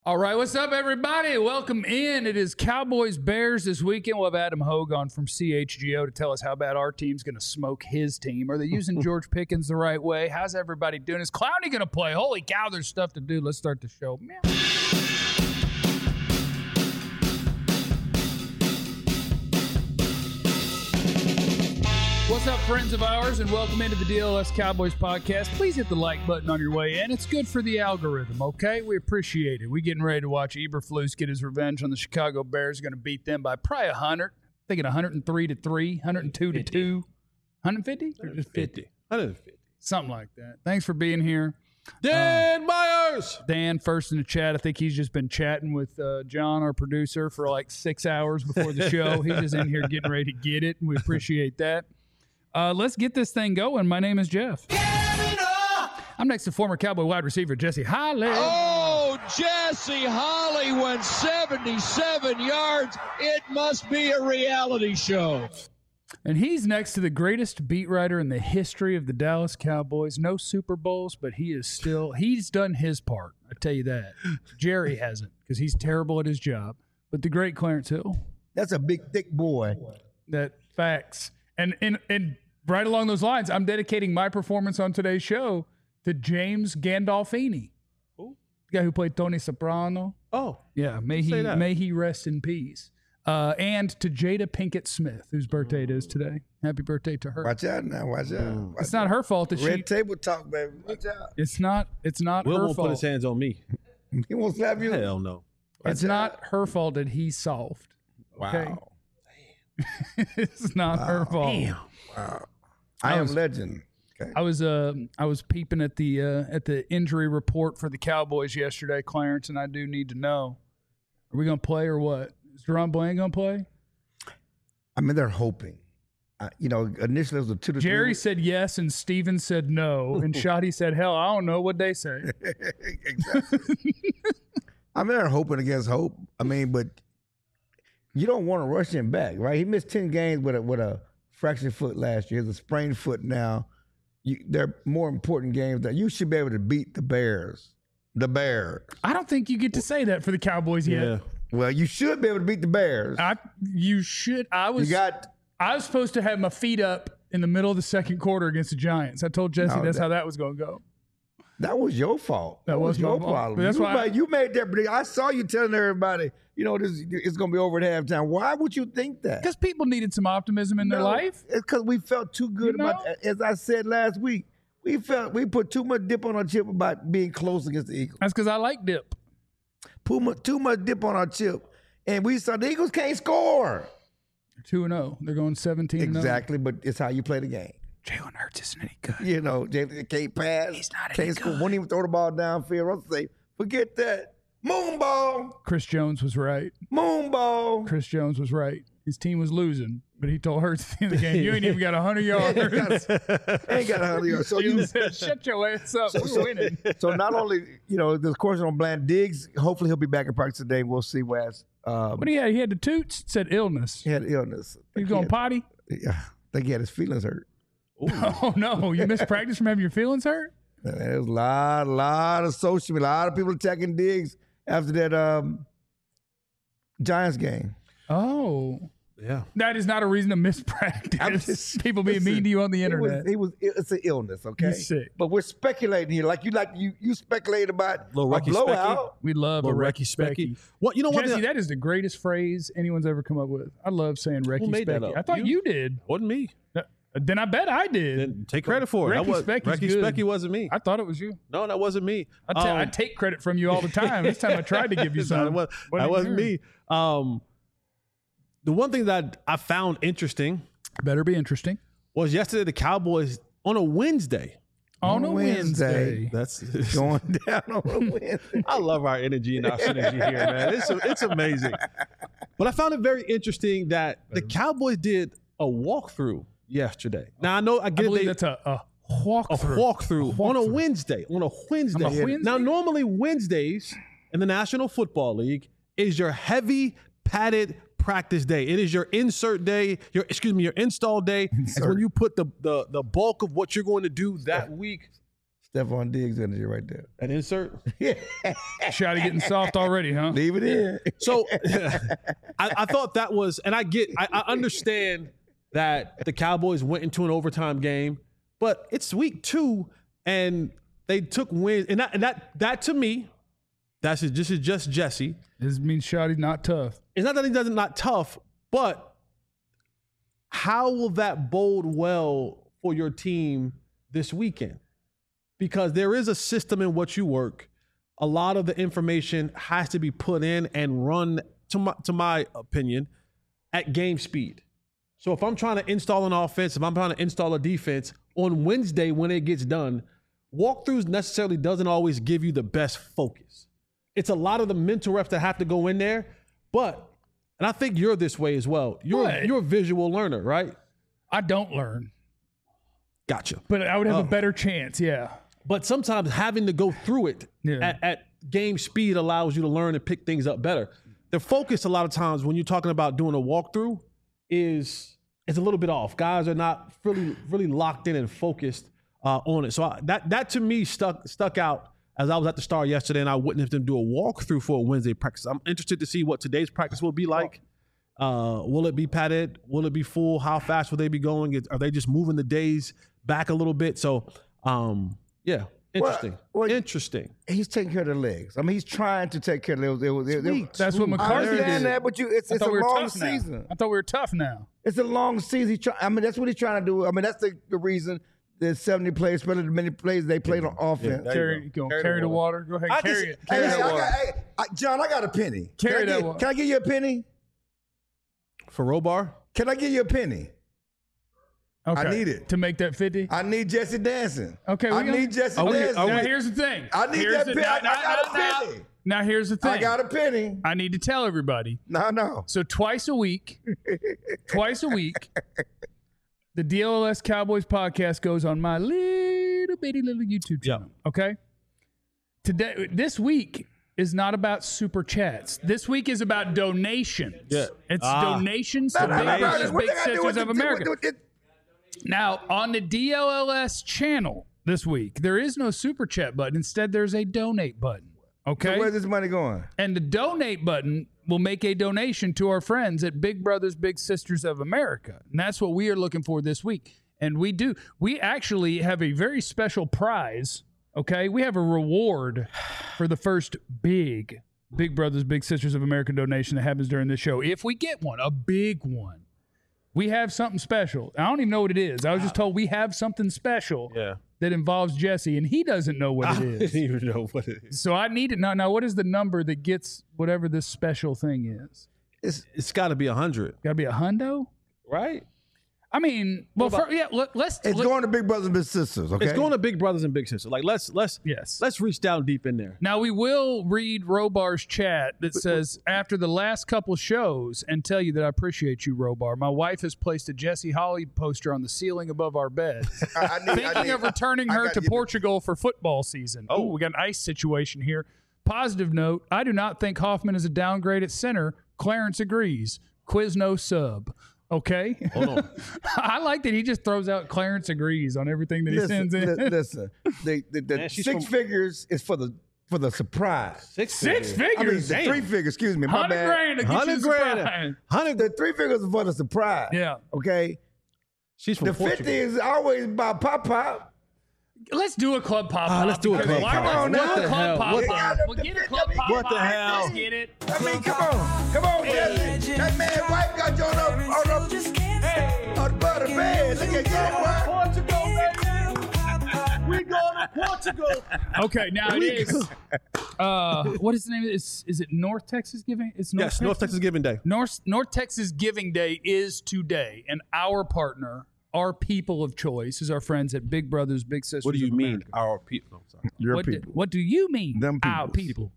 All right, what's up, everybody? Welcome in. It is Cowboys Bears this weekend. We'll have Adam Hogue on from CHGO to tell us how bad our team's going to smoke his team. Are they using George Pickens the right way? How's everybody doing? Is Clowney going to play? Holy cow, there's stuff to do. Let's start the show. Meow. What's up, friends of ours, and welcome into the DLS Cowboys podcast. Please hit the like button on your way in. It's good for the algorithm, okay? We appreciate it. We're getting ready to watch Eberflus get his revenge on the Chicago Bears. Going to beat them by probably 100. Thinking 103-3, 102-2, 150? Or just 50? 150. Something like that. Thanks for being here. Dan Myers! Dan, first in the chat. I think he's just been chatting with John, our producer, for like 6 hours before the show. He's just in here getting ready to get it, and we appreciate that. Let's get this thing going. My name is Jeff. I'm next to former Cowboy wide receiver Jesse Holley. Oh, Jesse Holley went 77 yards. It must be a reality show. And he's next to the greatest beat writer in the history of the Dallas Cowboys. No Super Bowls, but he's done his part. I tell you that. Jerry hasn't, because he's terrible at his job. But the great Clarence Hill. That's a big, thick boy. That facts. And right along those lines, I'm dedicating my performance on today's show to James Gandolfini. Who? The guy who played Tony Soprano. Oh. Yeah, may he rest in peace. And to Jada Pinkett Smith, whose birthday it is today. Happy birthday to her. Watch out now. Watch out. It's not her fault that Red table talk, baby. Watch out. It's not Will her won't fault. put his hands on me. He won't slap you. Hell no. It's not her fault that he's soft. Okay? Wow. It's not her fault. Damn. Wow. I am legend. Okay. I was peeping at the injury report for the Cowboys yesterday, Clarence, and I do need to know: are we going to play or what? Is Deron Bland going to play? I mean, they're hoping. Initially it was a 2 to 3. Jerry said yes, and Steven said no, and Shotty said, "Hell, I don't know what they say." Exactly. I mean, they're hoping against hope. I mean, but you don't want to rush him back, right? He missed 10 games with a fractured foot last year. It's a sprained foot now. They're more important games that you should be able to beat the Bears. The Bears. I don't think you get to say that for the Cowboys yet. Yeah. Well, you should be able to beat the Bears. You should. I was supposed to have my feet up in the middle of the second quarter against the Giants. I told Jesse that's how that was going to go. That was your fault. That was your my fault. problem. But that's why you made that prediction. I saw you telling everybody, it's going to be over at halftime. Why would you think that? Because people needed some optimism in their life. It's because we felt too good about that. As I said last week, we put too much dip on our chip about being close against the Eagles. That's because I like dip. Too much dip on our chip. And we saw the Eagles can't score. 2-0. They're going 17-0. Exactly, but it's how you play the game. Jalen Hurts isn't any good. Jalen can't pass. He's not can't any score. good. Won't even throw the ball downfield. Russell say, forget that. Moon ball. Chris Jones was right. Moon ball. Chris Jones was right. His team was losing, but he told Hurts at the end of the game, you ain't even got 100 yards. Ain't got 100 yards. So He said, shut your ass up. We're winning. So not only, there's question on Bland Diggs. Hopefully he'll be back in practice today. We'll see where What he had? He had the toots. It said illness. He had illness. He was going potty? Yeah. I think he had his feelings hurt. Oh, no. You missed practice from having your feelings hurt? There's a lot of social media, a lot of people attacking Diggs after that Giants game. Oh. Yeah. That is not a reason to miss practice. People being mean to you on the internet. It's an illness, okay? He's sick. But we're speculating here. You speculate about a blowout. We love a Recky Specky. What Jesse, that is the greatest phrase anyone's ever come up with. I love saying Recky made that Specky. up? I thought you did. Wasn't me. Then I bet I did. Then take credit for it. Recky Specky's Recky good. Specky wasn't me. I thought it was you. No, that wasn't me. I take credit from you all the time. This time I tried to give you some. That wasn't me. The one thing that I found interesting better be interesting was yesterday the Cowboys on a Wednesday. On a Wednesday. That's going down on a Wednesday. I love our energy and our synergy here, man. It's amazing. But I found it very interesting that the Cowboys did a walkthrough yesterday. Now I believe that's a walkthrough. A walkthrough on a Wednesday. On a Wednesday. Now normally Wednesdays in the National Football League is your heavy padded practice day. It is your insert day, your install day. It's when you put the bulk of what you're going to do that week Stephon Diggs energy right there. An insert. Shotty getting soft already, huh? Leave it in. So I thought that was, and I understand that the Cowboys went into an overtime game, but it's week 2 and they took wins, and that to me, this is just Jesse. This means Shotty's not tough. It's not that he doesn't not tough, but how will that bode well for your team this weekend? Because there is a system in what you work. A lot of the information has to be put in and run, to my opinion, at game speed. So if I'm trying to install an offense, if I'm trying to install a defense, on Wednesday when it gets done, walkthroughs necessarily doesn't always give you the best focus. It's a lot of the mental reps that have to go in there, but, and I think you're this way as well. You're a visual learner, right? I don't learn. Gotcha. But I would have a better chance, yeah. But sometimes having to go through it at game speed allows you to learn and pick things up better. The focus a lot of times when you're talking about doing a walkthrough is a little bit off. Guys are not really locked in and focused on it. So that to me stuck out as I was at the Star yesterday and I witnessed them do a walkthrough for a Wednesday practice. I'm interested to see what today's practice will be like. Will it be padded? Will it be full? How fast will they be going? Are they just moving the days back a little bit? So, yeah, interesting. Well, interesting. He's taking care of the legs. I mean, he's trying to take care of the legs. That's what McCarthy did. I understand that, but it's a long season. I thought we were tough now. It's a long season. That's what he's trying to do. I mean, that's the reason there's 70 players, better than many plays they played on offense. Carry the water. Go ahead, carry it. Carry that water. John, I got a penny. Carry that water. Can I give you a penny? For Robar? Can I give you a penny? Okay. I need it. To make that 50? I need Jesse dancing. Okay. I need Jesse dancing. Now, here's the thing. I need that penny. I got a penny. Now, here's the thing. I got a penny. I need to tell everybody. No. So twice a week, the DLS Cowboys podcast goes on my little YouTube channel. Yeah. Okay? This week is not about super chats. This week is about donations. Yeah. It's donations to Big Brothers Big Sisters of America. Now, on the DLS channel this week, there is no super chat button. Instead, there's a donate button. Okay? So where's this money going? And the donate button will make a donation to our friends at Big Brothers Big Sisters of America. And that's what we are looking for this week. And we do. We actually have a very special prize. Okay? We have a reward for the first Big Brothers Big Sisters of America donation that happens during this show. If we get one, a big one. We have something special. I don't even know what it is. I was just told we have something special that involves Jesse, and he doesn't know what it is. I didn't even know what it is. So I need it. Now, what is the number that gets whatever this special thing is? It's got to be 100. Got to be a hundo? Right? I mean, well, let's. It's going to Big Brothers and Big Sisters, okay? It's going to Big Brothers and Big Sisters. Like, let's reach down deep in there. Now, we will read Robar's chat that says, after the last couple shows, and tell you that I appreciate you, Robar. My wife has placed a Jesse Holly poster on the ceiling above our bed. Thinking of returning her to Portugal for football season. Oh, we got an ice situation here. Positive note, I do not think Hoffman is a downgrade at center. Clarence agrees. Quizno sub. Okay. Hold on. I like that he just throws out Clarence agrees on everything that he sends in. Listen, the 6 figures is for the surprise. Six figures? I mean, 3 figures, excuse me. My bad. 100 grand to get you the surprise. The 3 figures is for the surprise. Yeah. Okay. She's from Portugal. 50 is always about pop. Let's do a club pop-up. Let's do a club pop-up. What the hell? We'll get a club pop-up. What the hell? Let's get it. I mean, come on, Jesse. That man wife got you on the butter bed. Look at that, Portugal, baby. We going to Portugal. Okay, now it is. What is the name of it? Is it North Texas Giving? It's North Texas Giving Day. North Texas Giving Day is today, and our partner, our people of choice, is our friends at Big Brothers Big Sisters. What do you mean, our people? Your people. What do you mean, them our people?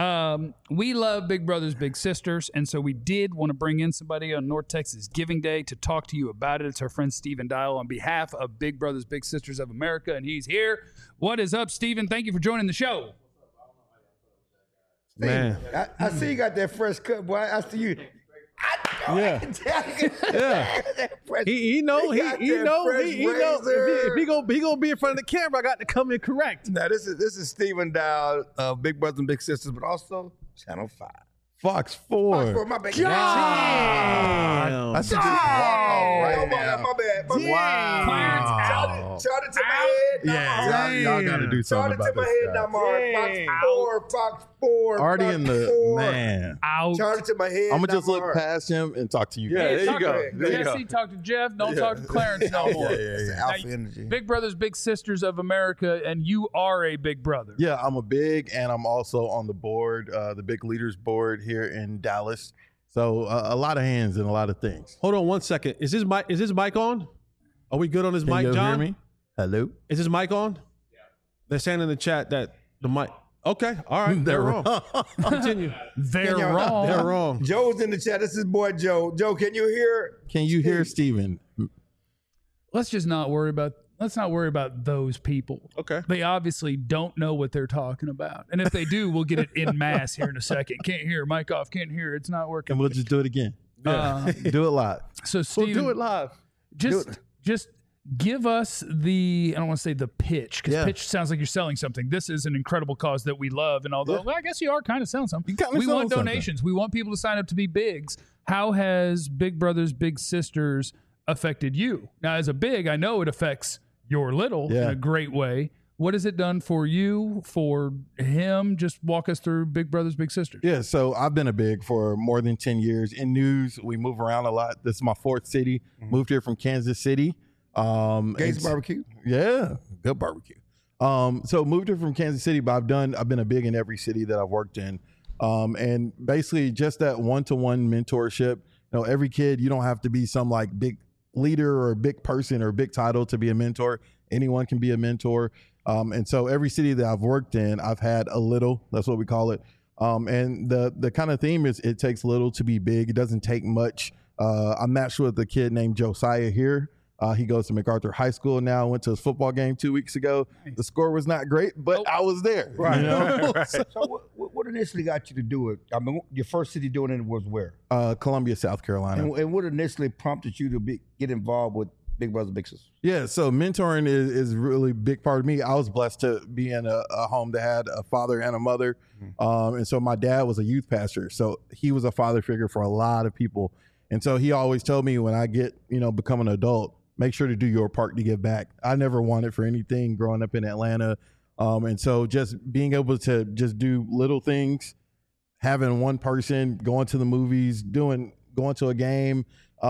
We love Big Brothers Big Sisters, and so we did want to bring in somebody on North Texas Giving Day to talk to you about it. It's our friend Stephen Dial on behalf of Big Brothers Big Sisters of America, and he's here. What is up, Stephen? Thank you for joining the show. Man, I see you got that fresh cut, boy. I see you. Yeah. He know. If he gonna be in front of the camera, I got to come in correct. Now this is Stephen Dow of Big Brothers and Big Sisters, but also Channel 5. Fox 4. My bad. Damn. That's just walk off right now. My bad. Wow. Shot it to my head. Yeah, y'all got to do Shot something it to about my this head. guy. Now, Mark. Fox 4. Already Fox in the 4. man. Out. Shot it to my head. I'm gonna just look Mark. past him and talk to you. Yeah, guys. there you Talk go. to There you Jesse, talk to Jeff. Don't talk to Clarence no more. Yeah. Alpha Now, energy. Big Brothers, Big Sisters of America, and you are a big brother. Yeah, I'm a big, and I'm also on the board, the Big Leaders board here in Dallas. So a lot of hands and a lot of things. Hold on 1 second. Is his mic on? Are we good on his Can mic, you John? hear me? Hello? Is his mic on? Yeah. They're saying in the chat that the mic. Okay, all right. They're wrong. Continue. They're y'all- wrong. They're wrong. Joe's in the chat. This is boy Joe. Joe, can you hear? Can you hear Steven? Let's not worry about those people. Okay. They obviously don't know what they're talking about. And if they do, we'll get it in mass here in a second. Can't hear. Mic off. Can't hear. It's not working. And we'll just do it again. Uh, Do it live. so We'll Steven, do it live. just give us the, I don't want to say the pitch, because Yeah. pitch sounds like you're selling something. This is an incredible cause that we love. And although, well, I guess you are kind of selling something. You kinda We want selling something. donations. We want people to sign up to be bigs. How has Big Brothers, Big Sisters affected you? Now, as a big, I know it affects your little in Yeah. a great way. What has it done for you, for him? Just walk us through Big Brothers, Big Sisters. Yeah, so I've been a big for more than 10 years. In news, we move around a lot. This is my fourth city. Moved here from Kansas City. Gates and- Barbecue. Yeah, good barbecue. So moved here from Kansas City, but I've been a big in every city that I've worked in. And basically just that one-to-one mentorship. You know, every kid, you don't have to be some like big leader or big person or big title to be a mentor. Anyone can be a mentor. And so every city that I've worked in, I've had a little, that's what we call it. And the kind of theme is it takes little to be big. It doesn't take much. I matched with a kid named Josiah here. He goes to MacArthur High School now. Went to his football game 2 weeks ago. The score was not great, but I was there. Right. You know? So what initially got you to do it? I mean, your first city doing it was where? Columbia, South Carolina. And what initially prompted you to get involved with Big Brothers Big Sisters? Yeah, so mentoring is really big part of me. I was blessed to be in a home that had a father and a mother. And so my dad was a youth pastor. So he was a father figure for a lot of people. And so he always told me when I become an adult, make sure to do your part to give back. I never wanted for anything growing up in Atlanta. And so just being able to just do little things, having one person going to the movies, going to a game.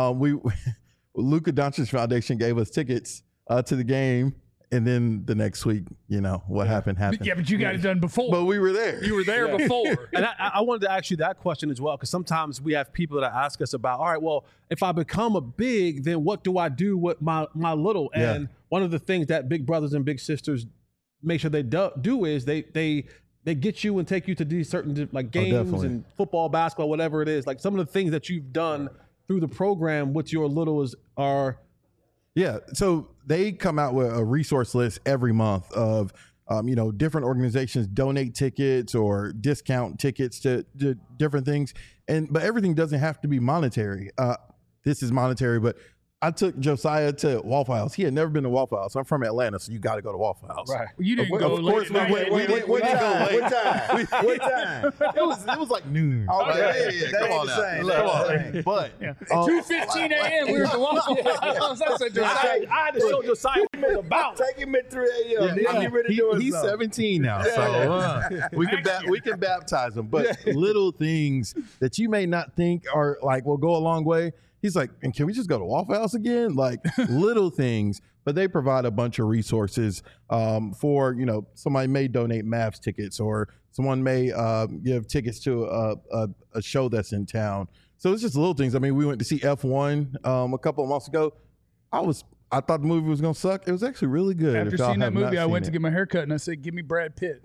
Luka Doncic Foundation gave us tickets to the game. And then the next week, what happened. Yeah, but you got it done before. But we were there. You were there before. And I wanted to ask you that question as well, because sometimes we have people that ask us about, all right, well, if I become a big, then what do I do with my little? And one of the things that Big Brothers and Big Sisters make sure they do is they get you and take you to these certain like games definitely. and football, basketball, whatever it is. Like some of the things that you've done through the program with your littles are. Yeah, so they come out with a resource list every month of, different organizations donate tickets or discount tickets to different things, but everything doesn't have to be monetary. This is monetary, but I took Josiah to Waffle House. He had never been to WaffleUse. I'm from Atlanta, so you got to go to Waffle House. Right. You didn't go Of course, late. we didn't go late. What time? It was like noon. Okay. Yeah, That come ain't on the now. same. Come on. That ain't But 2:15 a.m. We were at the Waffle House. I said, I had to show Josiah what it was about. Take him at 3 a.m. Then you ready to do it. he's 17 now, so we can baptize him. But little things that you may not think are like will go a long way. He's like, and can we just go to Waffle House again? Like little things, but they provide a bunch of resources for, somebody may donate Mavs tickets or someone may give tickets to a show that's in town. So it's just little things. I mean, we went to see F1 a couple of months ago. I thought the movie was going to suck. It was actually really good. after If y'all seeing that have not movie, I seen went to it. get my hair cut, and I said, give me Brad Pitt.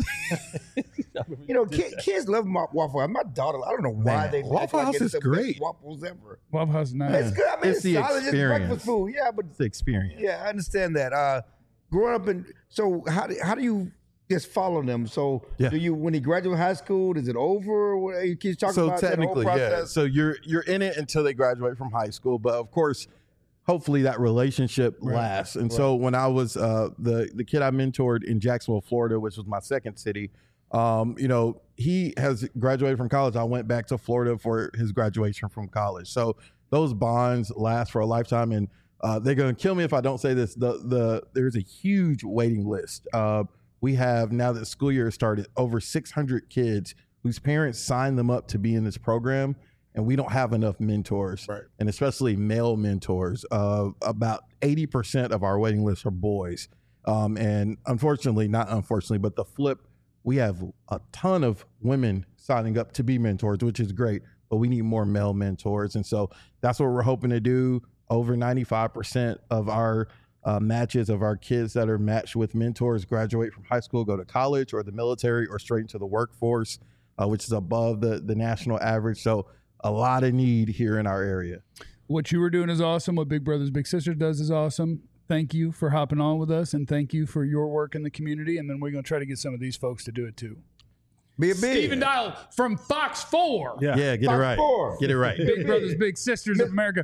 Kids love Waffle House. My daughter, I don't know why Man, they Waffle act like House it's is the great. best waffles ever. Waffle House is nice. It's good. I mean, It's the solid. It's experience. breakfast food. Yeah, but It's the experience. yeah, I understand that. Growing up in, so how do you just follow them. So Yeah. do you, when he graduates high school, is it over? What, you keep talking So about that whole technically, yeah. process? So you're in it until they graduate from high school, but of course, hopefully that relationship lasts. And so when I was the kid I mentored in Jacksonville, Florida, which was my second city, he has graduated from college. I went back to Florida for his graduation from college. So those bonds last for a lifetime, and they're going to kill me if I don't say this. There's a huge waiting list. We have, now that school year started, over 600 kids whose parents signed them up to be in this program, and we don't have enough mentors, and especially male mentors. About 80% of our waiting list are boys. And unfortunately, not unfortunately, but the flip, we have a ton of women signing up to be mentors, which is great, but we need more male mentors. And so that's what we're hoping to do. Over 95% of our matches of our kids that are matched with mentors graduate from high school, go to college or the military or straight into the workforce, which is above the national average. So a lot of need here in our area. What you were doing is awesome. What Big Brothers Big Sisters does is awesome. Thank you for hopping on with us, and thank you for your work in the community. And then we're going to try to get some of these folks to do it too. Be a big. Stephen Dial from Fox 4. Yeah. Get Fox it right. 4. Get it right. Big Brothers Big Sisters of America.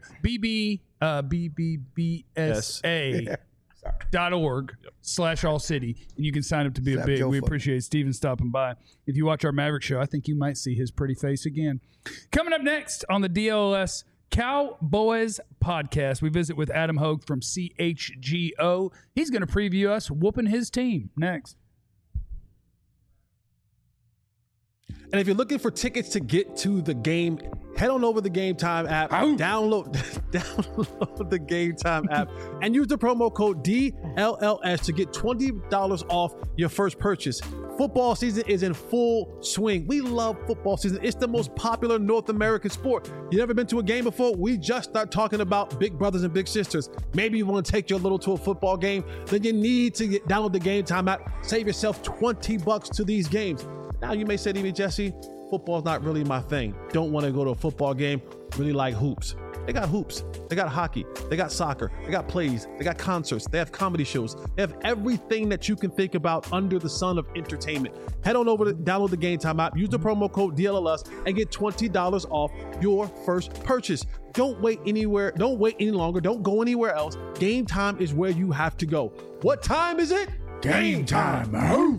BBBSA.org/all city. And you can sign up to be a big. We appreciate Stephen stopping by. If you watch our Maverick show, I think you might see his pretty face again. Coming up next on the DLS Cowboys podcast, we visit with Adam Hogue from CHGO. He's going to preview us whooping his team next. And if you're looking for tickets to get to the game, head on over the Game Time app, download the Game Time app, and use the promo code DLLS to get $20 off your first purchase. Football season is in full swing. We love football season. It's the most popular North American sport. You never been to a game before? We just start talking about Big Brothers and Big Sisters. Maybe you want to take your little to a football game? Then you need to download the Game Time app. Save yourself $20 to these games. Now you may say to me, Jesse, football's not really my thing. Don't want to go to a football game. Really like hoops. They got hoops. They got hockey. They got soccer. They got plays. They got concerts. They have comedy shows. They have everything that you can think about under the sun of entertainment. Head on over to download the Game Time app. Use the promo code DLLS and get $20 off your first purchase. Don't wait anywhere. Don't wait any longer. Don't go anywhere else. Game Time is where you have to go. What time is it? Game time.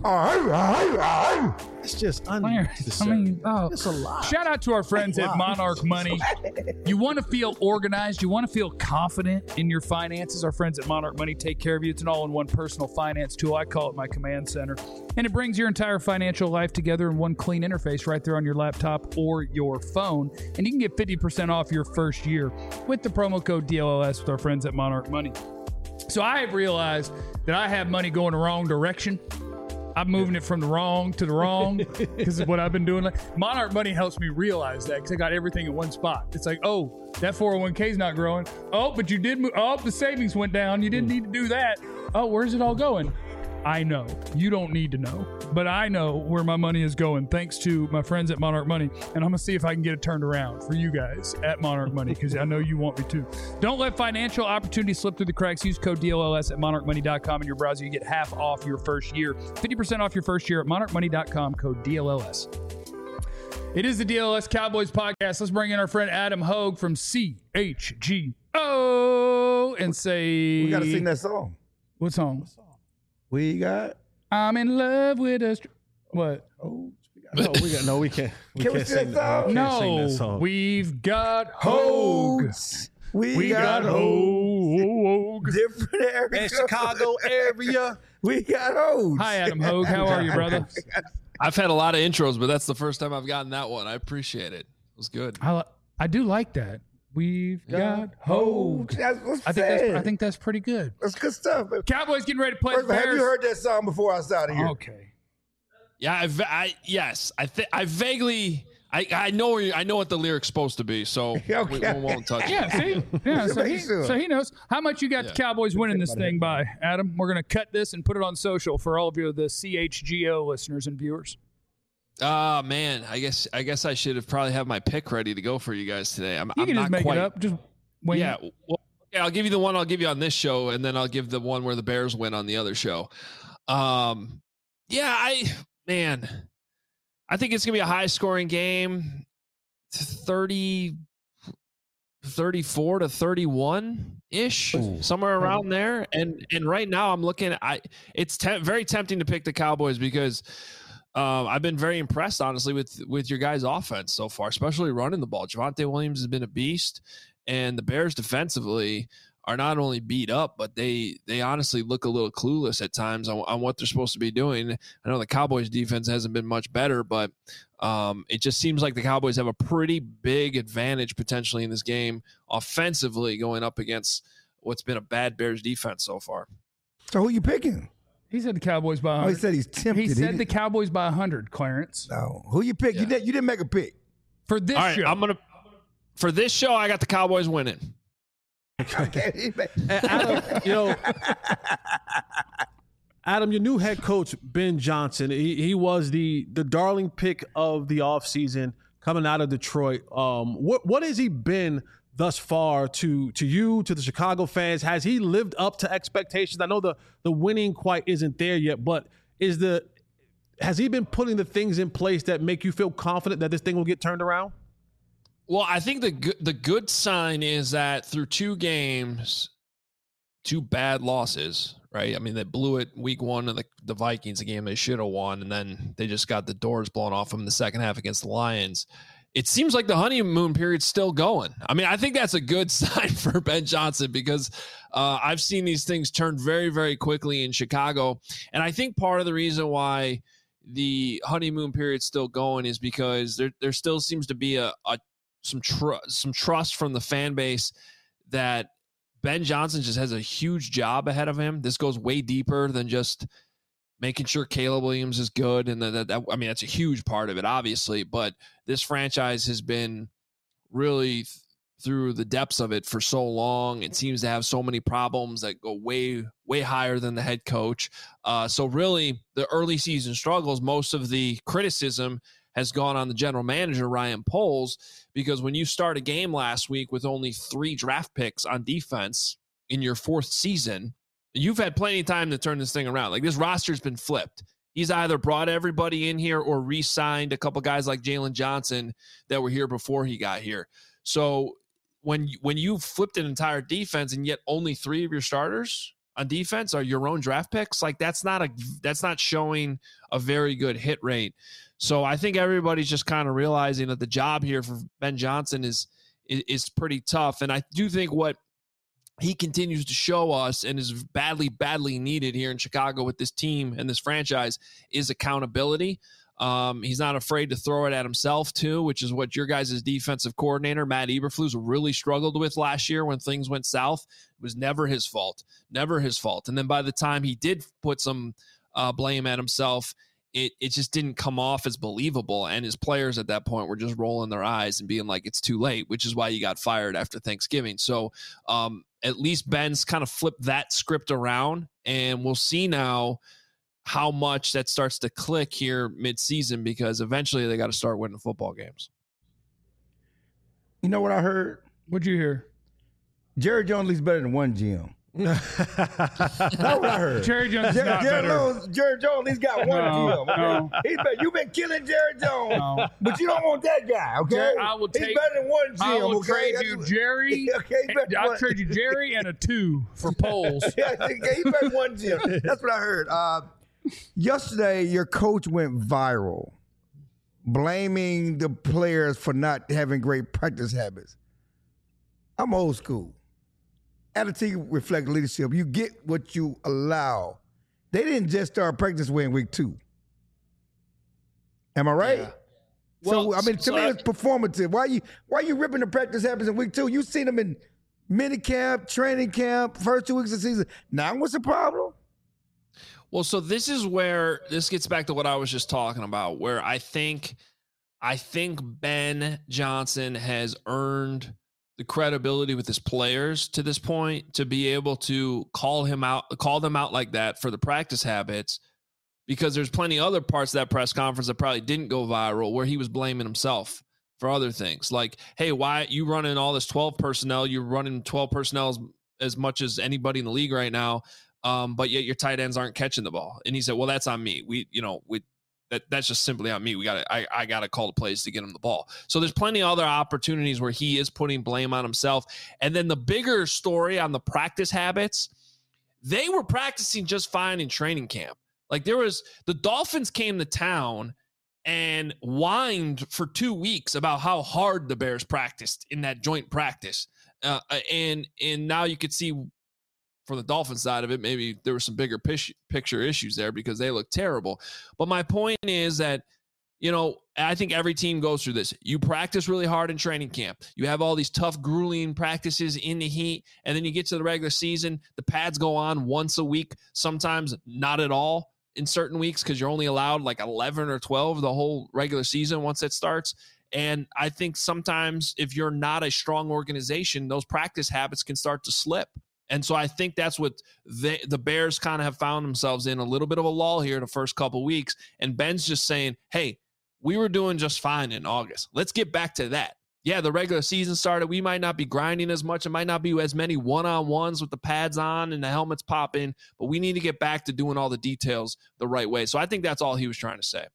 It's just unnecessary. It's a lot. Shout out to our friends at Monarch Money. You want to feel organized. You want to feel confident in your finances. Our friends at Monarch Money take care of you. It's an all-in-one personal finance tool. I call it my command center. And it brings your entire financial life together in one clean interface right there on your laptop or your phone. And you can get 50% off your first year with the promo code DLLS with our friends at Monarch Money. So I have realized that I have money going the wrong direction. I'm moving it from the wrong to the wrong because of what I've been doing. Monarch Money helps me realize that because I got everything in one spot. It's like, oh, that 401k is not growing. Oh, but you did move. Oh, the savings went down. You didn't need to do that. Oh, where's it all going? I know. You don't need to know. But I know where my money is going thanks to my friends at Monarch Money. And I'm going to see if I can get it turned around for you guys at Monarch Money because I know you want me to. Don't let financial opportunities slip through the cracks. Use code DLLS at monarchmoney.com in your browser. You get half off your first year. 50% off your first year at monarchmoney.com, code DLLS. It is the DLS Cowboys podcast. Let's bring in our friend Adam Hogue from CHGO and say... We got to sing that song. What song? We got... I'm in love with a... What? Oh, We can't. We Can we can't sing that song? sing that No, song. we've got Hogue. We got Hogue. Different area. In Chicago area. We got Hogue. Hi, Adam Hogue. How are you, brother? I've had a lot of intros, but that's the first time I've gotten that one. I appreciate it. It was good. I do like that. We've got Hogue. That's what's I think that's pretty good. That's good stuff. Cowboys getting ready to play First the of all, Bears. have you heard that song before outside of here? Okay. Yeah, I vaguely, I know what the lyric's supposed to be, so we won't touch it. Yeah, see? Yeah, so he knows. How much you got the Cowboys winning this thing by, Adam? We're going to cut this and put it on social for all of you, the CHGO listeners and viewers. Man, I guess I should have probably had my pick ready to go for you guys today. You can just make it up. Just wing Yeah, it. well, yeah, I'll give you the one I'll give you on this show, and then I'll give the one where the Bears win on the other show. Yeah, I think it's going to be a high-scoring game, 34 to 31-ish, somewhere around there. And right now I'm looking at it's very tempting to pick the Cowboys because I've been very impressed, honestly, with your guys' offense so far, especially running the ball. Javonte Williams has been a beast, and the Bears defensively are not only beat up, but they honestly look a little clueless at times on what they're supposed to be doing. I know the Cowboys defense hasn't been much better, but it just seems like the Cowboys have a pretty big advantage potentially in this game offensively going up against what's been a bad Bears defense so far. So who are you picking? He said the Cowboys by 100. Oh, he said he's tempted. He said the Cowboys by 100, Clarence. No. Who you pick? Yeah. You didn't make a pick. For this show. For this show, I got the Cowboys winning. Okay. Adam, your new head coach, Ben Johnson, he was the darling pick of the offseason coming out of Detroit. What has he been thus far to you, to the Chicago fans? Has he lived up to expectations? I know the winning quite isn't there yet, but has he been putting the things in place that make you feel confident that this thing will get turned around? Well, I think the good sign is that through 2 games, 2 bad losses, right? I mean, they blew it week 1 of the Vikings, a game they should have won, and then they just got the doors blown off them in the second half against the Lions. It seems like the honeymoon period's still going. I mean, I think that's a good sign for Ben Johnson because I've seen these things turn very, very quickly in Chicago. And I think part of the reason why the honeymoon period's still going is because there still seems to be some trust from the fan base that Ben Johnson just has a huge job ahead of him. This goes way deeper than just making sure Caleb Williams is good. And that's a huge part of it, obviously, but this franchise has been really through the depths of it for so long. It seems to have so many problems that go way, way higher than the head coach. So really the early season struggles, most of the criticism has gone on the general manager, Ryan Poles, because when you start a game last week with only 3 draft picks on defense in your 4th season, you've had plenty of time to turn this thing around. Like, this roster's been flipped. He's either brought everybody in here or re-signed a couple guys like Jalen Johnson that were here before he got here. So when you flipped an entire defense and yet only 3 of your starters on defense are your own draft picks, like that's not showing a very good hit rate. So I think everybody's just kind of realizing that the job here for Ben Johnson is pretty tough. And I do think what he continues to show us and is badly, badly needed here in Chicago with this team and this franchise is accountability. He's not afraid to throw it at himself too, which is what your guys' defensive coordinator, Matt Eberflus, really struggled with last year when things went south. It was never his fault. And then by the time he did put some blame at himself, it just didn't come off as believable. And his players at that point were just rolling their eyes and being like, it's too late, which is why he got fired after Thanksgiving. So at least Ben's kind of flipped that script around, and we'll see now how much that starts to click here mid-season, because eventually they got to start winning football games. You know what I heard? What'd you hear? Jerry Jones is better than one GM. That's what I heard. Jerry Jones is not better. Jerry Jones, he's got one GM. Okay? No. He's better. You've been killing Jerry Jones, but you don't want that guy. Okay, he's better than one GM. I will okay? trade you Jerry. I'll trade you Jerry and a 2 for Poles. Yeah, he's better than one GM. That's what I heard. Yesterday, your coach went viral, blaming the players for not having great practice habits. I'm old school. Attitude reflects leadership. You get what you allow. They didn't just start practice way in week 2. Am I right? Yeah. Well, so I mean, to me, it's performative. Why you ripping the practice habits in week 2? You seen them in mini camp, training camp, first 2 weeks of the season. Now, what's the problem? Well, so this is where this gets back to what I was just talking about, where I think Ben Johnson has earned the credibility with his players to this point to be able to call them out like that for the practice habits, because there's plenty of other parts of that press conference that probably didn't go viral where he was blaming himself for other things. Like, hey, why you running all this 12 personnel? You're running 12 personnel as much as anybody in the league right now. but yet your tight ends aren't catching the ball. And he said, well, that's on me. That's just simply on me. I gotta call the plays to get him the ball. So there's plenty of other opportunities where he is putting blame on himself. And then the bigger story on the practice habits, they were practicing just fine in training camp. Like the Dolphins came to town and whined for 2 weeks about how hard the Bears practiced in that joint practice. And now you could see for the Dolphins side of it, maybe there were some bigger picture issues there because they look terrible. But my point is that, I think every team goes through this. You practice really hard in training camp. You have all these tough, grueling practices in the heat, and then you get to the regular season. The pads go on once a week, sometimes not at all in certain weeks because you're only allowed like 11 or 12 the whole regular season once it starts. And I think sometimes if you're not a strong organization, those practice habits can start to slip. And so I think that's what the Bears kind of have found themselves in, a little bit of a lull here the first couple of weeks. And Ben's just saying, hey, we were doing just fine in August. Let's get back to that. Yeah, the regular season started. We might not be grinding as much. It might not be as many one-on-ones with the pads on and the helmets popping, but we need to get back to doing all the details the right way. So I think that's all he was trying to say.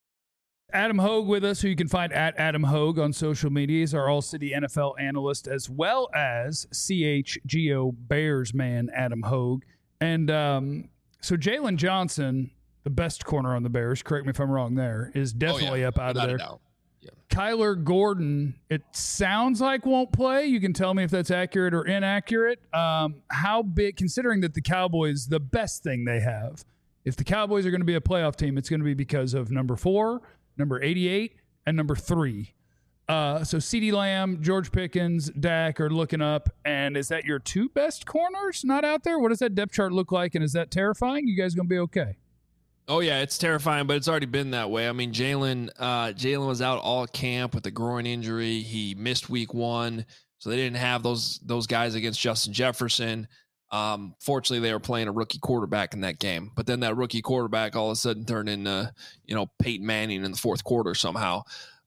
Adam Hogue with us, who you can find at Adam Hogue on social media. He's our All-City NFL analyst, as well as CHGO Bears man Adam Hogue. And so Jalen Johnson, the best corner on the Bears, correct me if I'm wrong there, is definitely up out of there. Yeah. Kyler Gordon, it sounds like won't play. You can tell me if that's accurate or inaccurate. How big, considering that the Cowboys, the best thing they have, if the Cowboys are going to be a playoff team, it's going to be because of number 4, number 88, and number 3. So CeeDee Lamb, George Pickens, Dak are looking up. And is that your 2 best corners not out there? What does that depth chart look like? And is that terrifying? You guys going to be okay? Oh, yeah, it's terrifying, but it's already been that way. I mean, Jalen was out all camp with a groin injury. He missed week 1, so they didn't have those guys against Justin Jefferson. Fortunately, they were playing a rookie quarterback in that game. But then that rookie quarterback all of a sudden turned into, Peyton Manning in the fourth quarter somehow.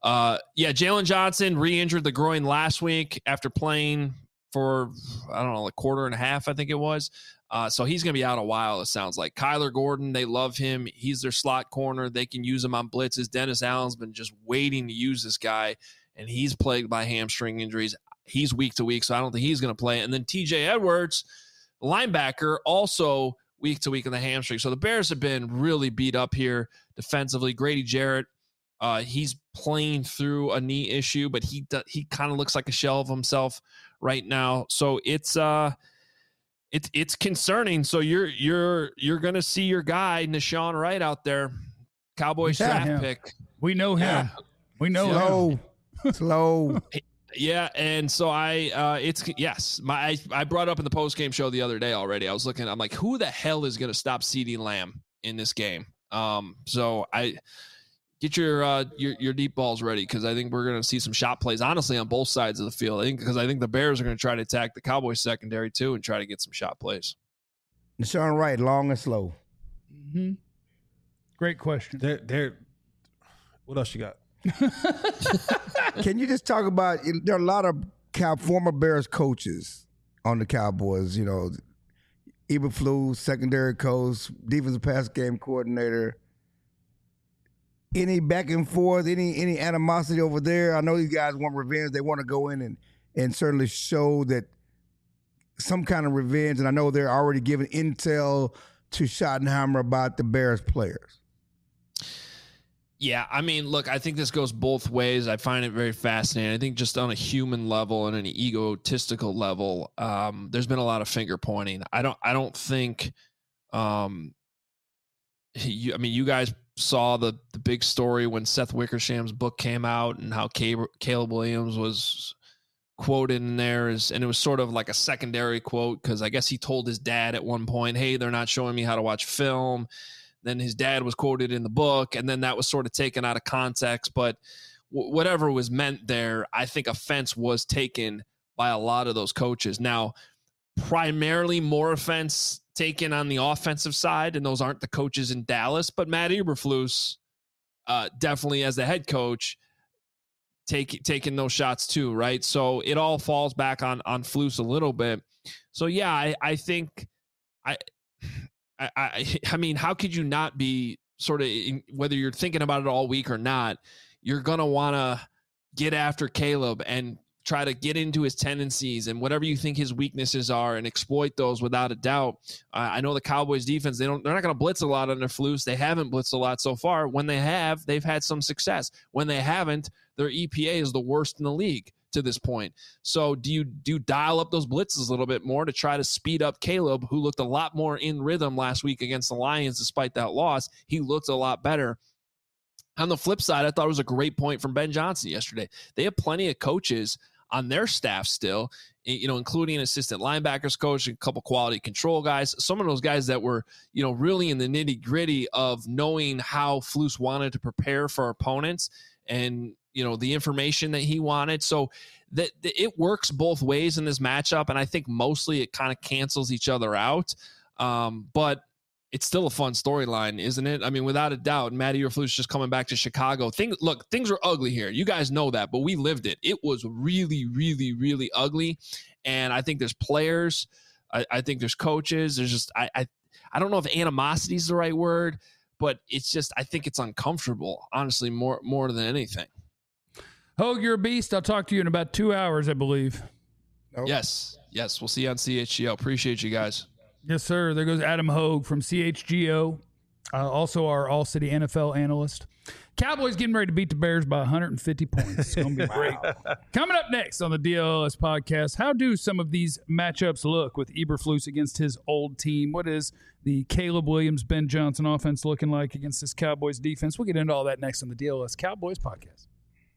Jalen Johnson re-injured the groin last week after playing for, a quarter and a half, I think it was. So he's going to be out a while, it sounds like. Kyler Gordon, they love him. He's their slot corner. They can use him on blitzes. Dennis Allen's been just waiting to use this guy, and he's plagued by hamstring injuries. He's week to week, so I don't think he's going to play. And then TJ Edwards, linebacker, also week to week in the hamstring. So the Bears have been really beat up here defensively. Grady Jarrett, he's playing through a knee issue, but he kind of looks like a shell of himself right now. So it's concerning. So you're going to see your guy Nahshon Wright out there, Cowboys draft pick. We know him. Yeah. We know him. Slow. Yeah, and so I brought up in the post-game show the other day already. I'm like, who the hell is going to stop CeeDee Lamb in this game? So I get your deep balls ready, because I think we're going to see some shot plays, honestly, on both sides of the field. I think the Bears are going to try to attack the Cowboys secondary too and try to get some shot plays. Nahshon Wright, long and slow. Mm-hmm. Great question. What else you got? Can you just talk about, there are a lot of former Bears coaches on the Cowboys, Eberflus, secondary coach, defensive pass game coordinator. Any back and forth, any animosity over there? I know these guys want revenge. They want to go in and certainly show that some kind of revenge. And I know they're already giving intel to Schottenheimer about the Bears players. Yeah, I mean, look, I think this goes both ways. I find it very fascinating. I think just on a human level and an egotistical level, there's been a lot of finger pointing. I don't think, you guys saw the big story when Seth Wickersham's book came out and how Caleb Williams was quoted in there, and it was sort of like a secondary quote, because I guess he told his dad at one point, hey, they're not showing me how to watch film. Then his dad was quoted in the book, and then that was sort of taken out of context. But whatever was meant there, I think offense was taken by a lot of those coaches. Now, primarily more offense taken on the offensive side, and those aren't the coaches in Dallas, but Matt Eberflus, definitely as the head coach, taking those shots too, right? So it all falls back on Flus a little bit. So yeah, I think I mean, how could you not be sort of, whether you're thinking about it all week or not, you're going to want to get after Caleb and try to get into his tendencies and whatever you think his weaknesses are and exploit those without a doubt. I know the Cowboys defense, they're not going to blitz a lot under Flus. They haven't blitzed a lot so far. When they have, they've had some success. When they haven't, their EPA is the worst in the league to this point. So do you dial up those blitzes a little bit more to try to speed up Caleb, who looked a lot more in rhythm last week against the Lions despite that loss? He looked a lot better. On the flip side, I thought it was a great point from Ben Johnson yesterday. They have plenty of coaches on their staff still, including an assistant linebackers coach, a couple quality control guys, some of those guys that were, really in the nitty gritty of knowing how Flus wanted to prepare for opponents and, the information that he wanted. So that it works both ways in this matchup. And I think mostly it kind of cancels each other out. But it's still a fun storyline, isn't it? I mean, without a doubt, Matt Eberflus just coming back to Chicago. Things are ugly here. You guys know that, but we lived it. It was really, really, really ugly. And I think there's players. I think there's coaches. There's just, I don't know if animosity is the right word, but it's just, I think it's uncomfortable, honestly, more than anything. Hogue, you're a beast. I'll talk to you in about 2 hours, I believe. Nope. Yes. We'll see you on CHGO. Appreciate you guys. Yes, sir. There goes Adam Hogue from CHGO, also our All-City NFL analyst. Cowboys getting ready to beat the Bears by 150 points. It's going to be great. Coming up next on the DLS podcast, how do some of these matchups look with Eberflus against his old team? What is the Caleb Williams, Ben Johnson offense looking like against this Cowboys defense? We'll get into all that next on the DLS Cowboys podcast.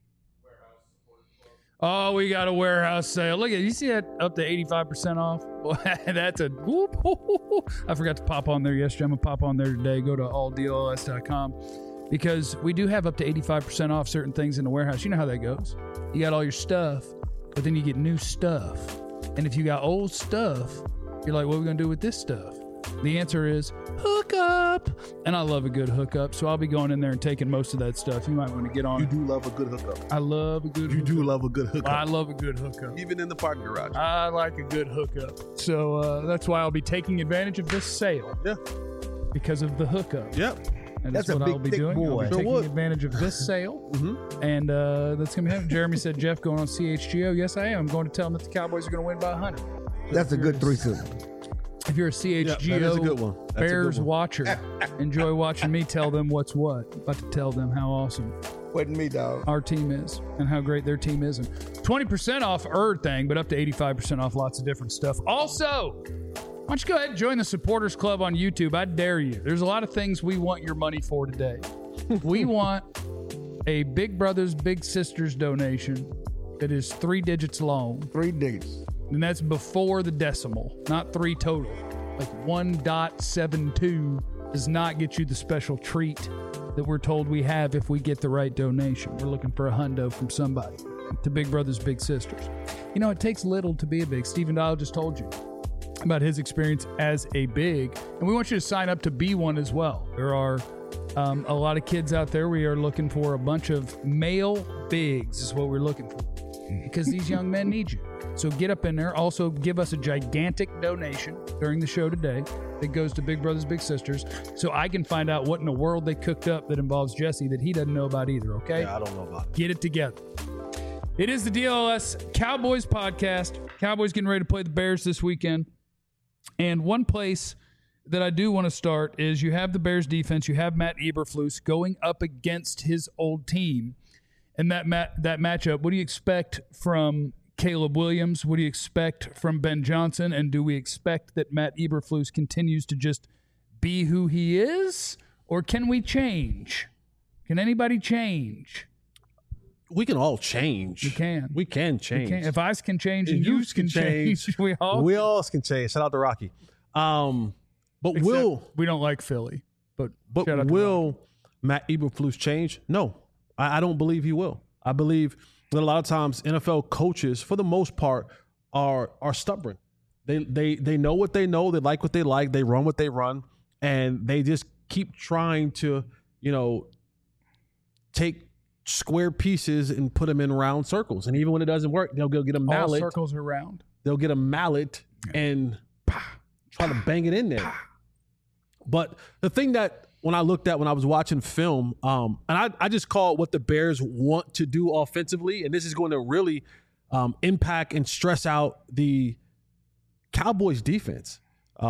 Oh, we got a warehouse sale. Look at you, see that up to 85% off? Well, that's a whoop. I forgot to pop on there yesterday. I'm going to pop on there today. Go to alldls.com because we do have up to 85% off certain things in the warehouse. You know how that goes. You got all your stuff, but then you get new stuff. And if you got old stuff, you're like, what are we going to do with this stuff? The answer is hookup. And I love a good hookup, so I'll be going in there and taking most of that stuff. You might want to get on. You do love a good hookup. I love a good You hookup. do love a good hookup. I love a good hookup. Even in the parking garage. I like a good hookup. So that's why I'll be taking advantage of this sale. Yeah. Because of the hookup. Yep. And That's that's a what big, I'll be thick doing. boy. I'll be taking advantage of this sale. Mm-hmm. And that's going to be happening. Jeremy said, Jeff, going on CHGO. Yes, I am. I'm going to tell him that the Cowboys are going to win by 100. That's a good threesome. If you're a CHGO that is a good one. That's a good Bears one. watcher, enjoy watching me tell them what's what. About to tell them how awesome Wasn't me, dog. our team is and how great their team is. And 20% off thing, but up to 85% off lots of different stuff. Also, why don't you go ahead and join the Supporters Club on YouTube? I dare you. There's a lot of things we want your money for today. We want a Big Brothers Big Sisters donation that is 3 digits long. 3 digits. And that's before the decimal, not 3 total. Like 1.72 does not get you the special treat that we're told we have if we get the right donation. We're looking for a hundo from somebody to Big Brothers Big Sisters. You know, it takes little to be a big. Stephen Dial just told you about his experience as a big, and we want you to sign up to be one as well. There are a lot of kids out there. We are looking for a bunch of male bigs is what we're looking for because these young men need you. So get up in there. Also, give us a gigantic donation during the show today that goes to Big Brothers Big Sisters so I can find out what in the world they cooked up that involves Jesse that he doesn't know about either, okay? Yeah, I don't know about it. Get it together. It is the DLS Cowboys podcast. Cowboys getting ready to play the Bears this weekend. And one place that I do want to start is you have the Bears defense. You have Matt Eberflus going up against his old team. And that matchup, what do you expect from Caleb Williams? What do you expect from Ben Johnson? And do we expect that Matt Eberflus continues to just be who he is? Or can we change? Can anybody change? We can all change. We can. We can change. If I can change and And you yous can can change, change. we all We all can change. Shout out to Rocky. But Except we don't like Philly. But shout out to Rocky. will Matt Eberflus change? No, I don't believe he will. I believe that a lot of times NFL coaches, for the most part, are stubborn. They know what they know. They like what they like. They run what they run, and they just keep trying to, take square pieces and put them in round circles. And even when it doesn't work, they'll go get a all mallet. circles are round. They'll get a mallet and try to bang it in there. But the thing that when I looked at when I was watching film, and I just call it what the Bears want to do offensively, and this is going to really impact and stress out the Cowboys defense.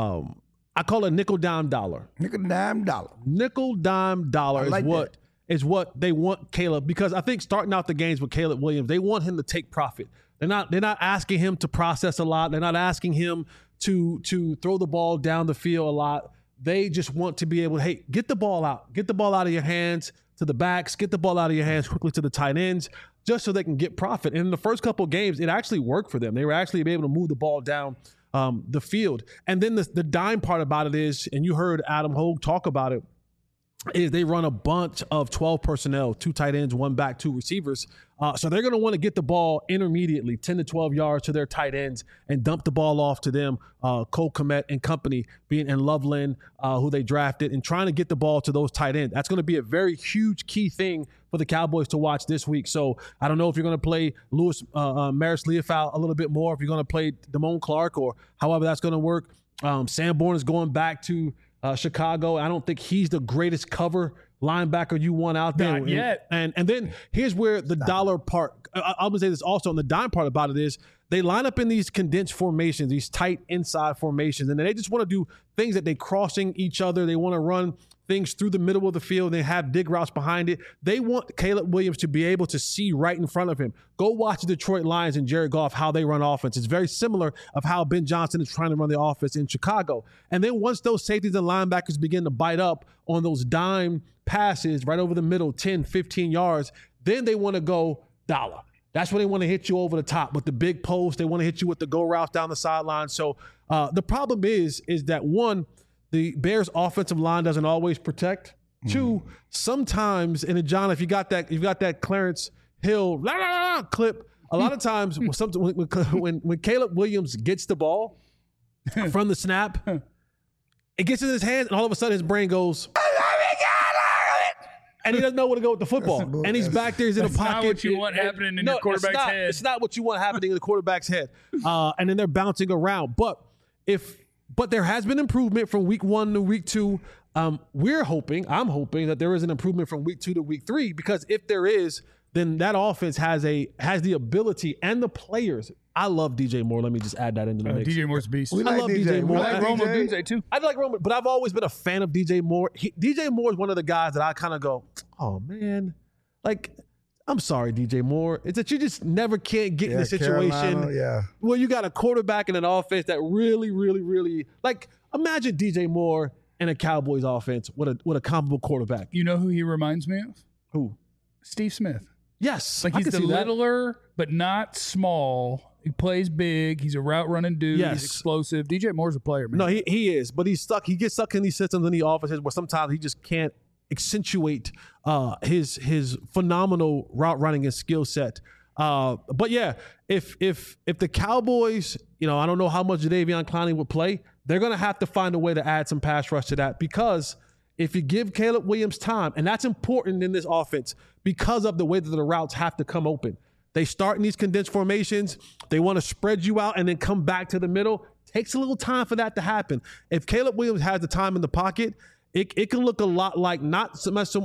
I call it nickel, dime, dollar. Nickel, dime, dollar. Nickel, dime, dollar like is what they want Caleb, because I think starting out the games with Caleb Williams, they want him to take profit. They're not asking him to process a lot. They're not asking him to throw the ball down the field a lot. They just want to be able to, hey, get the ball out. Get the ball out of your hands to the backs. Get the ball out of your hands quickly to the tight ends, just so they can get profit. And in the first couple of games, it actually worked for them. They were actually able to move the ball down the field. And then the dime part about it is, and you heard Adam Hogue talk about it, is they run a bunch of 12 personnel, 2 tight ends, 1 back, 2 receivers. So they're going to want to get the ball intermediately, 10 to 12 yards to their tight ends, and dump the ball off to them, Cole Kmet and company, being in Loveland, who they drafted, and trying to get the ball to those tight ends. That's going to be a very huge key thing for the Cowboys to watch this week. So I don't know if you're going to play Louis Maris Leofau a little bit more, if you're going to play Damone Clark, or however that's going to work. Sanborn is going back to Chicago. I don't think he's the greatest cover linebacker you want out there. Not yet. And then here's where the dollar part, I'm going to say this also, and the dime part about it is they line up in these condensed formations, these tight inside formations, and they just want to do things that they crossing each other. They want to run things through the middle of the field. They have dig routes behind it. They want Caleb Williams to be able to see right in front of him. Go watch the Detroit Lions and Jared Goff, how they run offense. It's very similar of how Ben Johnson is trying to run the offense in Chicago. And then once those safeties and linebackers begin to bite up on those dime passes right over the middle, 10, 15 yards, then they want to go dollar. That's when they want to hit you over the top with the big post. They want to hit you with the go routes down the sideline. So the problem is that, one, the Bears' offensive line doesn't always protect. Two, sometimes, and John, if you got that Clarence Hill clip, a lot of times when Caleb Williams gets the ball from the snap, it gets in his hands, and all of a sudden his brain goes, and he doesn't know where to go with the football. And he's back there, he's in a pocket. Not what you want happening in your quarterback's head. It's not what you want happening in the quarterback's head. And then they're bouncing around. But there has been improvement from week 1 to week 2. I'm hoping that there is an improvement from week 2 to week 3, because if there is, then that offense has the ability and the players. I love DJ Moore. Let me just add that into the mix. DJ Moore's a beast. I love DJ Moore. We like Rome Odunze too. I like Rome, but I've always been a fan of DJ Moore. DJ Moore is one of the guys that I kind of go, oh man, like, I'm sorry, DJ Moore. It's that you just never can't get in the situation where you got a quarterback and an offense that really, really, really, like, imagine DJ Moore and a Cowboys offense with a comparable quarterback. You know who he reminds me of? Who? Steve Smith. Yes. Like, he's the littler, but not small. He plays big. He's a route running dude. Yes. He's explosive. DJ Moore's a player, man. No, he is, but he's stuck. He gets stuck in these systems in the offenses where sometimes he just can't accentuate his phenomenal route running and skill set. But yeah, if the Cowboys, I don't know how much Jadeveon Clowney would play, they're going to have to find a way to add some pass rush to that, because if you give Caleb Williams time, and that's important in this offense because of the way that the routes have to come open. They start in these condensed formations. They want to spread you out and then come back to the middle. Takes a little time for that to happen. If Caleb Williams has the time in the pocket, it can look a lot like not so much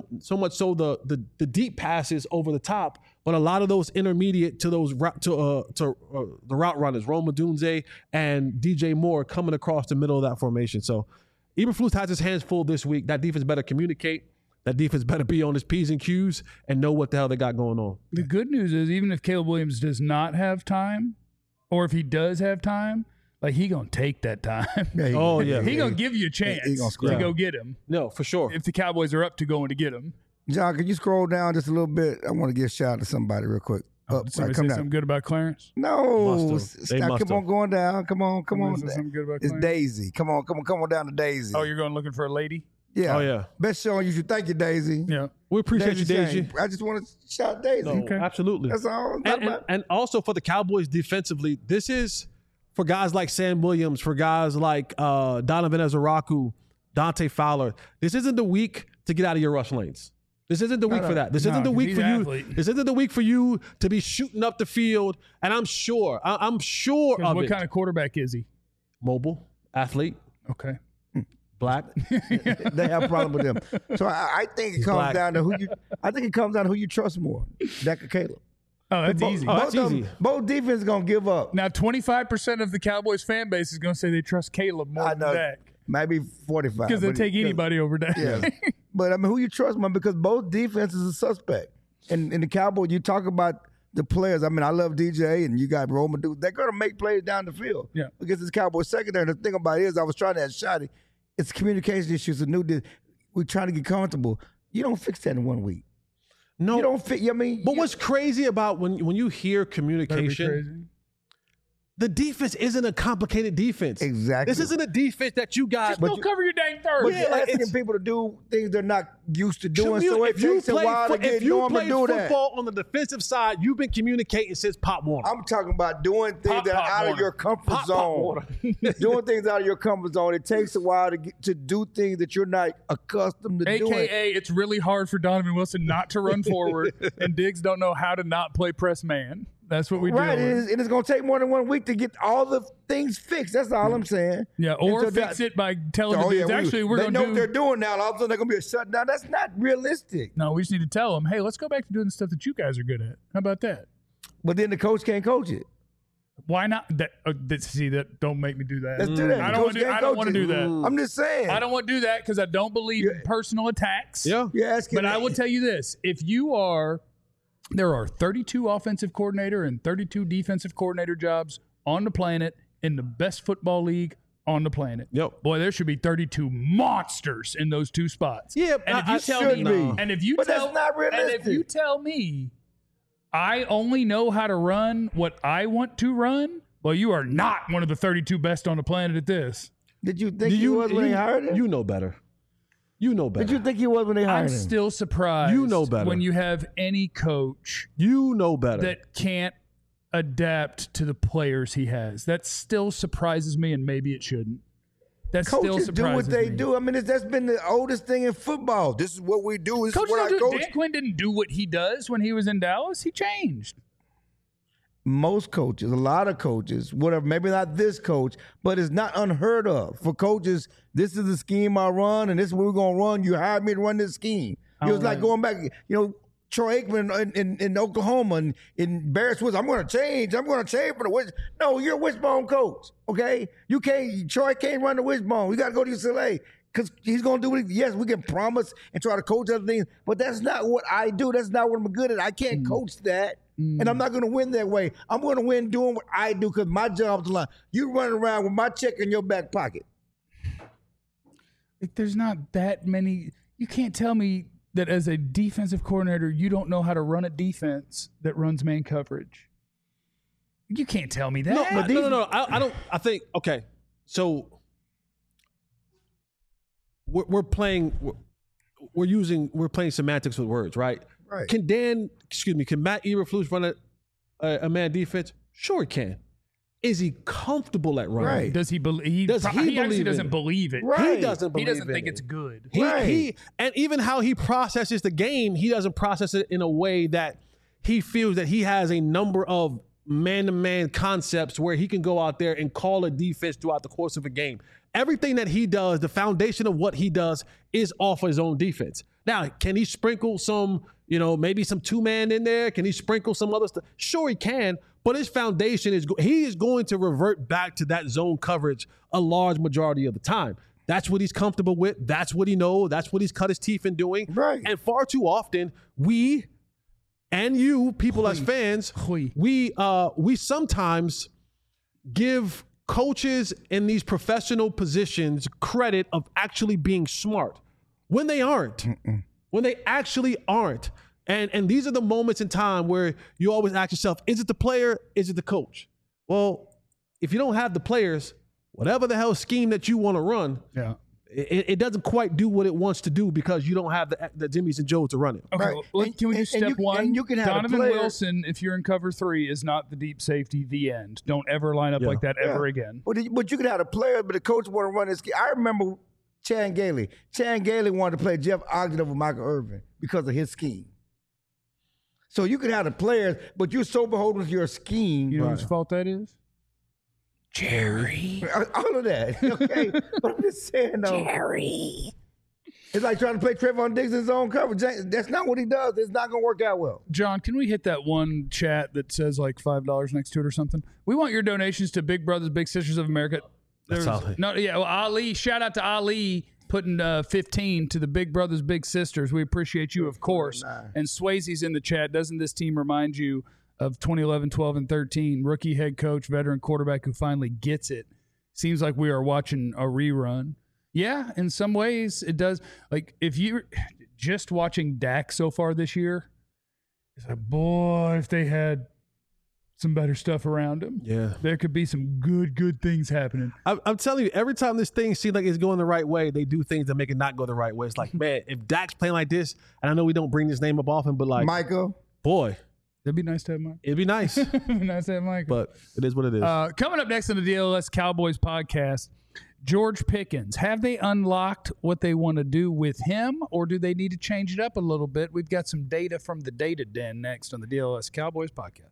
the deep passes over the top, but a lot of those intermediate to those the route runners, Rome Odunze and DJ Moore, coming across the middle of that formation. So Eberflus has his hands full this week. That defense better communicate. That defense better be on his P's and Q's and know what the hell they got going on. The good news is, even if Caleb Williams does not have time, or if he does have time, like, he going to take that time. Yeah, He going to give you a chance to go get him. No, for sure. If the Cowboys are up to going to get him. John, can you scroll down just a little bit? I want to give a shout out to somebody real quick. Did somebody say something good about Clarence? No. Come on, going down. Come on. Something good about It's Clarence? Daisy. Come on down to Daisy. Oh, you're going looking for a lady? Yeah. Oh, yeah. Best show on YouTube. Thank you, Daisy. Yeah. We appreciate you, Daisy. Shane. I just want to shout Daisy. No, absolutely. That's all. And also for the Cowboys defensively, this is for guys like Sam Williams, for guys like Donovan Ezeraku, Dante Fowler. This isn't the week to get out of your rush lanes. This isn't the week for that. This isn't the week for you. This isn't the week for you to be shooting up the field. And I'm sure of What it. kind of quarterback is he? Mobile, athlete. Okay. Black. They have a problem with them. So I think it comes black. down to who you. I think it comes down to who you trust more, Dak or Caleb. Oh, that's easy. that's easy. Both defenses gonna give up. Now, 25% of the Cowboys fan base is going to say they trust Caleb more I than know. Dak Maybe 45. because they but- take anybody over Dak. Yeah. But I mean, who you trust more? Because both defenses are suspect. And in the Cowboys, you talk about the players. I mean, I love DJ and you got Roman dude. They're gonna make plays down the field. Yeah. Against this Cowboys secondary. And the thing about it is, I was trying to ask Shotty, it's communication issues. We're trying to get comfortable. You don't fix that in 1 week. No, You don't fit. I mean, but what's crazy about when you hear That'd be communication, crazy. the defense isn't a complicated defense. Exactly. This isn't a defense that you got. Just don't cover your dang third. But Yeah, you're like, asking it's- people to do things they're not used to doing, Commu- so it takes a while to if get you normal to played do that. football on the defensive side, you've been communicating since Pop Warner. I'm talking about doing things Pop, that are Pop out of Warner. your comfort Pop zone. Warner. Doing things out of your comfort zone. It takes a while to do things that you're not accustomed to doing. AKA, it's really hard for Donovan Wilson not to run forward, and Diggs don't know how to not play press man. That's what we do. Right, and it's going to take more than 1 week to get all the things fixed. That's all I'm saying. Yeah, or And so fix that- it by telling Oh, the yeah, dudes, actually, we're they going know to what do. they're doing now. All of a sudden, they're going to be a shutdown. That's not realistic. No, we just need to tell them, hey, let's go back to doing the stuff that you guys are good at. How about that? But then the coach can't coach it. Why not? See, that don't make me do that. Let's do that. I The don't coach want to. can't I don't coach want to it. do that. I'm just saying. I don't want to do that because I don't believe in personal attacks. Yeah. You're asking. But I will tell you this: there are 32 offensive coordinator and 32 defensive coordinator jobs on the planet in the best football league on the planet. Yep. Boy, there should be 32 monsters in those two spots. Yeah, and if I you tell should me, be. and if you But tell, that's not and if realistic. you tell me, I only know how to run what I want to run. Well, you are not one of the 32 best on the planet at this. Did you think he was when they hired him? You know better. You know better. Did you think he was when they hired I'm him? still surprised. You know better. when you have any coach You know better. that can't adapt to the players he has. That still surprises me, and maybe it shouldn't. That still Coaches do surprises what they me. do. I mean, that's been the oldest thing in football. This is what we do. This Coaches is what don't I do, coach. Dan Quinn didn't do what he does when he was in Dallas. He changed. Most coaches, a lot of coaches, whatever, maybe not this coach, but it's not unheard of for coaches. This is the scheme I run, and this is what we're going to run. You hired me to run this scheme. It was like going back, Troy Aikman in Oklahoma and in Barrett Woods. I'm going to change for the Wishbone. No, you're a Wishbone coach, okay? Troy can't run the Wishbone. You got to go to UCLA because he's going to do it. Yes, we can promise and try to coach other things, but that's not what I do. That's not what I'm good at. I can't coach that. And I'm not going to win that way. I'm going to win doing what I do because my job's line. You running around with my check in your back pocket. There's not that many. You can't tell me that as a defensive coordinator, you don't know how to run a defense that runs man coverage. You can't tell me that. No. I don't. I think okay. So we're playing. We're playing semantics with words, right? Right. Can Matt Eberflus run a man defense? Sure, he can. Is he comfortable at running? Right. Does he believe? Does he He actually believe doesn't in it? believe it. Right. He doesn't He believe doesn't in think it. it's good. He and even how he processes the game, he doesn't process it in a way that he feels that he has a number of man-to-man concepts where he can go out there and call a defense throughout the course of a game. Everything that he does, the foundation of what he does is off his own defense. Now, can he sprinkle some, maybe some two-man in there? Can he sprinkle some other stuff? Sure, he can. But his foundation he is going to revert back to that zone coverage a large majority of the time. That's what he's comfortable with. That's what he knows. That's what he's cut his teeth in doing. Right. And far too often, we and you, people as fans, we sometimes give coaches in these professional positions credit of actually being smart when they aren't. When they actually aren't. And these are the moments in time where you always ask yourself, is it the player? Is it the coach? Well, if you don't have the players, whatever the hell scheme that you want to run, it doesn't quite do what it wants to do because you don't have the Jimmys and Joes to run it. Okay, Right. well, can we do step one? And you can have Donovan a player. Wilson, if you're in cover 3, is not the deep safety. The end. Don't ever line up like that ever again. But you could have a player, but the coach want to run his scheme. I remember Chan Gailey. Chan Gailey wanted to play Jeff Ogden over Michael Irvin because of his scheme. So you could have the players, but you're so beholden to your scheme. You know whose fault that is? Jerry. All of that. Okay. But I'm just saying, though. Jerry. It's like trying to play Trayvon Diggs in his own coverage. That's not what he does. It's not going to work out well. John, can we hit that one chat that says like $5 next to it or something? We want your donations to Big Brothers Big Sisters of America. Ali, shout out to Ali putting 15 to the Big Brothers Big Sisters. We appreciate you, of course. And Swayze's in the chat. Doesn't this team remind you of 2011, 12, and 13? Rookie head coach, veteran quarterback who finally gets it. Seems like we are watching a rerun. Yeah, in some ways it does. Like, if you're just watching Dak so far this year, it's like, boy, if they had some better stuff around him, there could be some good things happening. I'm telling you, every time this thing seems like it's going the right way, they do things that make it not go the right way. It's like, man, if Dak's playing like this, and I know we don't bring this name up often, but like, Michael, boy. It'd be nice to have Mike. It'd be nice. Nice to have Mike. But it is what it is. Coming up next on the DLS Cowboys podcast, George Pickens. Have they unlocked what they want to do with him, or do they need to change it up a little bit? We've got some data from the Data Den next on the DLS Cowboys podcast.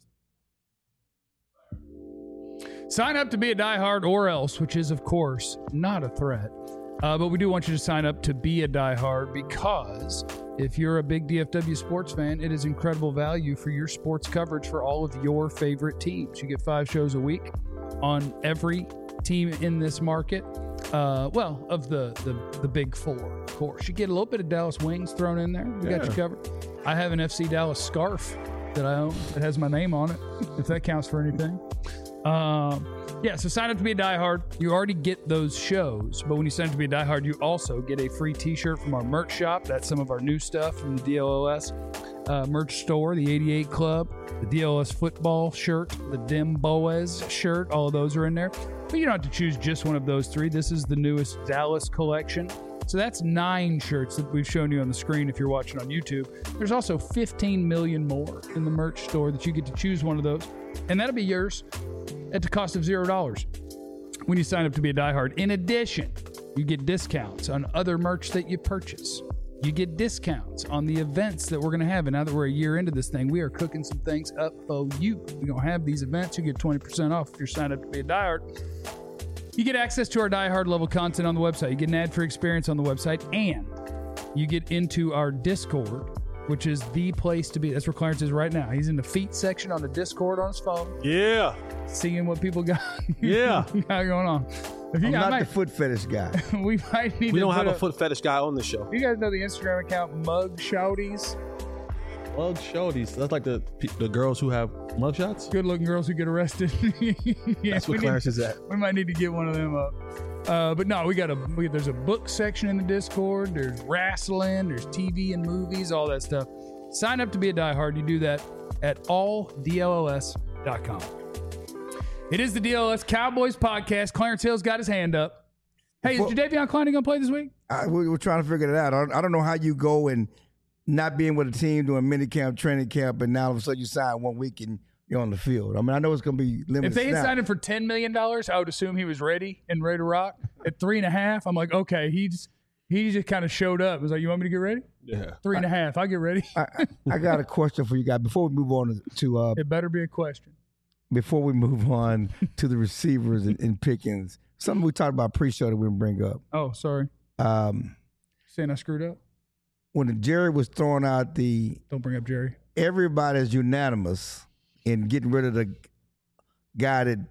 Sign up to be a diehard or else, which is, of course, not a threat. But we do want you to sign up to be a diehard because if you're a big DFW sports fan, it is incredible value for your sports coverage for all of your favorite teams. You get 5 shows a week on every team in this market. Of the big 4, of course. You get a little bit of Dallas Wings thrown in there. We got you covered. I have an FC Dallas scarf that I own that has my name on it, if that counts for anything. So sign up to be a diehard. You already get those shows, but when you sign up to be a diehard, you also get a free t-shirt from our merch shop. That's some of our new stuff from the DLS merch store, the 88 Club, the DLS football shirt, the Dim Boaz shirt. All of those are in there. But you don't have to choose just one of those 3. This is the newest Dallas collection. So that's 9 shirts that we've shown you on the screen if you're watching on YouTube. There's also 15 million more in the merch store that you get to choose one of those. And that'll be yours at the cost of $0 when you sign up to be a diehard. In addition, you get discounts on other merch that you purchase. You get discounts on the events that we're going to have. And now that we're a year into this thing, we are cooking some things up for you. We're going to have these events. You get 20% off if you're signed up to be a diehard. You get access to our diehard level content on the website. You get an ad-free experience on the website. And you get into our Discord, which is the place to be. That's where Clarence is right now. He's in the feet section on the Discord on his phone. Yeah. Seeing what people got, got going on. I'm not the foot fetish guy. We might need. We don't have a foot fetish guy on the show. You guys know the Instagram account Mug Shouties? Mug Shouties. That's like the girls who have mug shots. Good looking girls who get arrested. That's what Clarence is at. We might need to get one of them up. But no, there's a book section in the Discord. There's wrestling. There's TV and movies. All that stuff. Sign up to be a diehard. You do that at alldlls.com. It is the DLS Cowboys podcast. Clarence Hill's got his hand up. Hey, is Jadeveon Clowney going to play this week? We're trying to figure it out. I don't know how you go and not being with a team doing minicamp, training camp, and now all of a sudden you sign 1 week and you're on the field. I mean, I know it's going to be limited. If they had signed him for $10 million, I would assume he was ready to rock. At 3.5, I'm like, okay, he just kind of showed up. It was like, you want me to get ready? Yeah. 3.5, I'll get ready. I got a question for you guys before we move on to it better be a question. Before we move on to the receivers in Pickens, something we talked about pre-show that we didn't bring up. Oh, sorry. Saying I screwed up? When Jerry was throwing out Don't bring up Jerry. Everybody's unanimous in getting rid of the guy that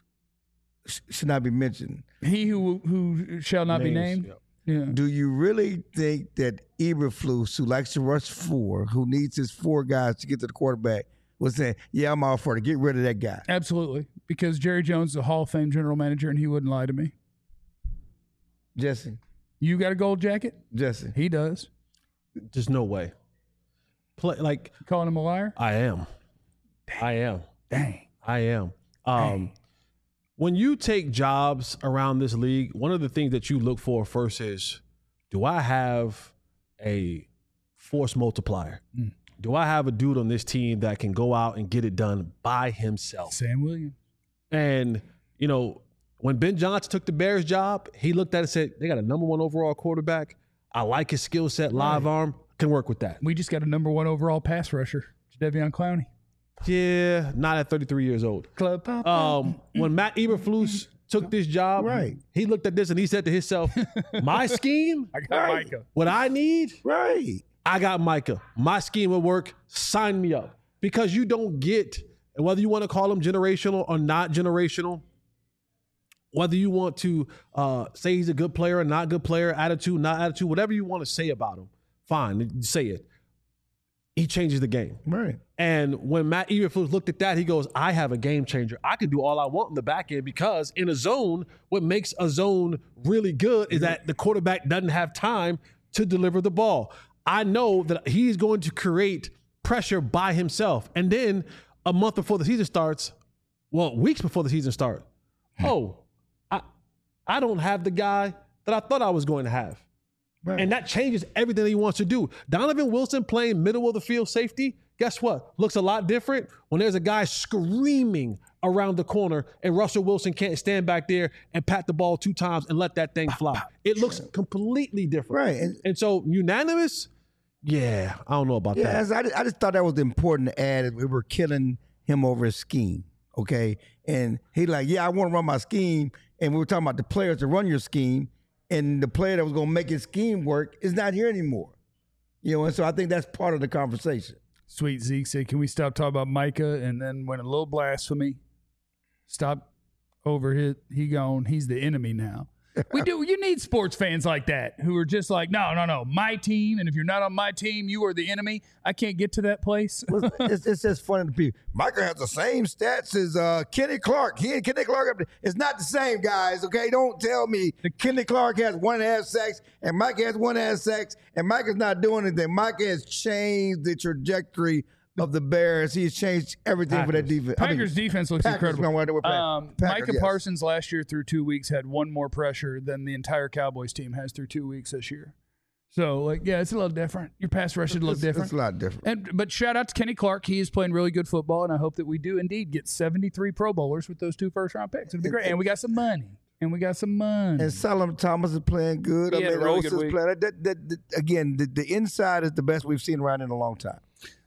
should not be mentioned. He who shall not be named? Yeah. Do you really think that Eberflus, who likes to rush 4, who needs his 4 guys to get to the quarterback, was saying, yeah, I'm all for it. Get rid of that guy. Absolutely. Because Jerry Jones is a Hall of Fame general manager, and he wouldn't lie to me. Jesse. You got a gold jacket? Jesse. He does. There's no way. Calling him a liar? I am. Dang. I am. When you take jobs around this league, one of the things that you look for first is, do I have a force multiplier? Do I have a dude on this team that can go out and get it done by himself? Sam Williams. And, when Ben Johnson took the Bears job, he looked at it and said, they got a number 1 overall quarterback. I like his skill set, live arm, can work with that. We just got a number 1 overall pass rusher, Jadeveon Clowney. Yeah, not at 33 years old. When Matt Eberflus took this job, Right. he looked at this and he said to himself, my scheme, I got Micah. what I need, Right. I got Micah. My scheme will work. Sign me up. Because you don't get, and whether you want to call him generational or not generational, whether you want to say he's a good player or not good player, attitude, not attitude, whatever you want to say about him, fine, say it. He changes the game. Right. And when Matt Eberflus looked at that, he goes, I have a game changer. I can do all I want in the back end because in a zone, what makes a zone really good is that the quarterback doesn't have time to deliver the ball. I know that he's going to create pressure by himself. And then a month before the season starts, weeks before the season starts, I don't have the guy that I thought I was going to have. Right. And that changes everything that he wants to do. Donovan Wilson playing middle of the field safety, guess what? Looks a lot different when there's a guy screaming around the corner and Russell Wilson can't stand back there and pat the ball 2 times and let that thing fly. It looks completely different. Right. And so unanimous, yeah, I don't know about that. I just thought that was important to add. We were killing him over his scheme, okay? And he like, I want to run my scheme. And we were talking about the players to run your scheme. And the player that was going to make his scheme work is not here anymore. And so I think that's part of the conversation. Sweet Zeke said, can we stop talking about Micah? And then went a little blasphemy. Stop over he gone. He's the enemy now. We do. You need sports fans like that who are just like, no, my team. And if you're not on my team, you are the enemy. I can't get to that place. It's just funny to people. Micah has the same stats as Kenny Clark. He and Kenny Clark, it's not the same, guys, okay? Don't tell me Kenny Clark has 1.5 sacks and Micah has 1.5 sacks and Micah's not doing anything. Micah has changed the trajectory of the Bears. He's changed everything for that defense. Packers defense looks incredible. Micah yes. Parsons last year through 2 weeks had one more pressure than the entire Cowboys team has through 2 weeks this year. So, it's a little different. Your pass rush should look different. It's a lot different. But shout out to Kenny Clark. He is playing really good football, and I hope that we do indeed get 73 Pro Bowlers with those 2 first-round picks. It'll be great. And we got some money. And Solomon Thomas is playing good. He had a really good week. Playing. Again, the inside is the best we've seen around in a long time.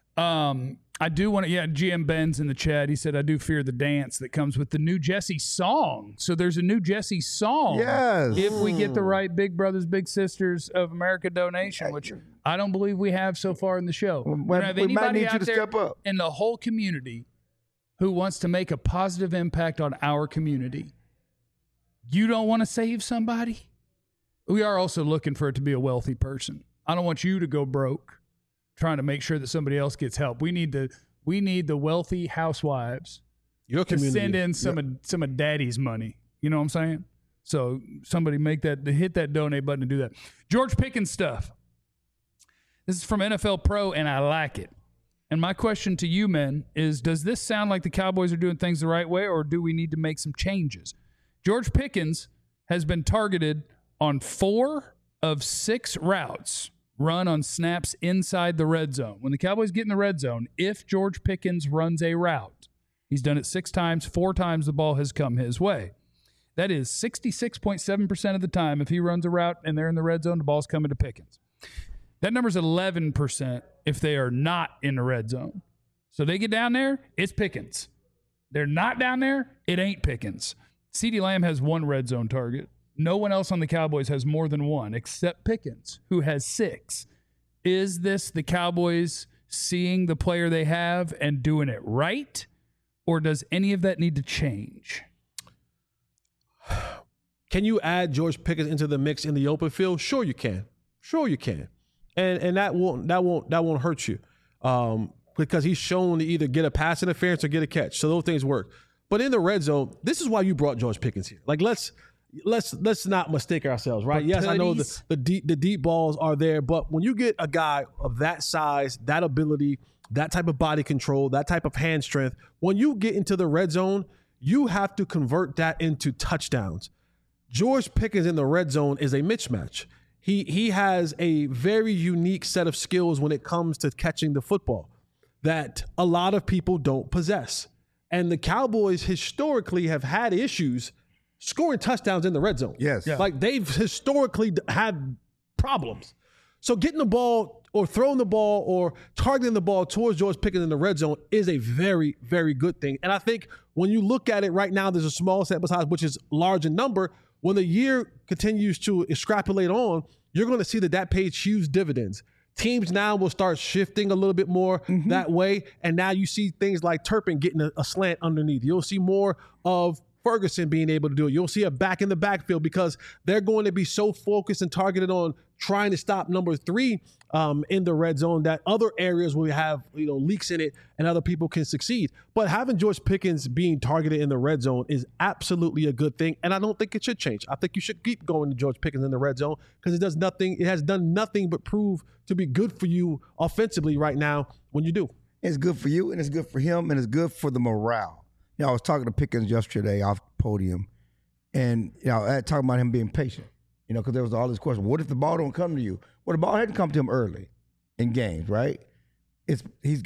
I do want to, GM Ben's in the chat. He said, I do fear the dance that comes with the new Jesse song. So there's a new Jesse song. Yes. If we get the right Big Brothers, Big Sisters of America donation, which I don't believe we have so far in the show. We don't have anybody out there in the whole community who wants to make a positive impact on our community. You don't want to save somebody? We are also looking for it to be a wealthy person. I don't want you to go broke trying to make sure that somebody else gets help. We need the wealthy housewives to send in some of daddy's money. You know what I'm saying? So somebody hit that donate button and do that. George Pickens stuff. This is from NFL Pro, and I like it. And my question to you, men, is does this sound like the Cowboys are doing things the right way, or do we need to make some changes? George Pickens has been targeted on 4 of 6 routes run on snaps inside the red zone. When the Cowboys get in the red zone, if George Pickens runs a route, he's done it 6 times, 4 times the ball has come his way. That is 66.7% of the time. If he runs a route and they're in the red zone, the ball's coming to Pickens. That number's 11% if they are not in the red zone. So they get down there, it's Pickens. They're not down there, it ain't Pickens. CeeDee Lamb has 1 red zone target. No one else on the Cowboys has more than 1 except Pickens, who has 6. Is this the Cowboys seeing the player they have and doing it right? Or does any of that need to change? Can you add George Pickens into the mix in the open field? Sure you can. And that won't hurt you. Because he's shown to either get a pass interference or get a catch. So those things work. But in the red zone, this is why you brought George Pickens here. Like let's not mistake ourselves, right? Yes, I know the deep balls are there, but when you get a guy of that size, that ability, that type of body control, that type of hand strength, when you get into the red zone, you have to convert that into touchdowns. George Pickens in the red zone is a mismatch. He has a very unique set of skills when it comes to catching the football that a lot of people don't possess. And the Cowboys historically have had issues scoring touchdowns in the red zone. Yes. Yeah. Like they've historically had problems. So getting the ball or throwing the ball or targeting the ball towards George Pickens in the red zone is a very, very good thing. And I think when you look at it right now, there's a small sample size, which is large in number. When the year continues to extrapolate on, you're going to see that pays huge dividends. Teams now will start shifting a little bit more that way. And now you see things like Turpin getting a slant underneath. You'll see more of Ferguson being able to do it. You'll see a back in the backfield because they're going to be so focused and targeted on trying to stop number 3 in the red zone that other areas will have leaks in it and other people can succeed. But having George Pickens being targeted in the red zone is absolutely a good thing, and I don't think it should change. I think you should keep going to George Pickens in the red zone because it does nothing. It has done nothing but prove to be good for you offensively right now when you do. It's good for you, and it's good for him, and it's good for the morale. I was talking to Pickens yesterday off the podium, and I talking about him being patient. Because there was all this question. What if the ball don't come to you? Well, the ball hadn't come to him early in games, right? He's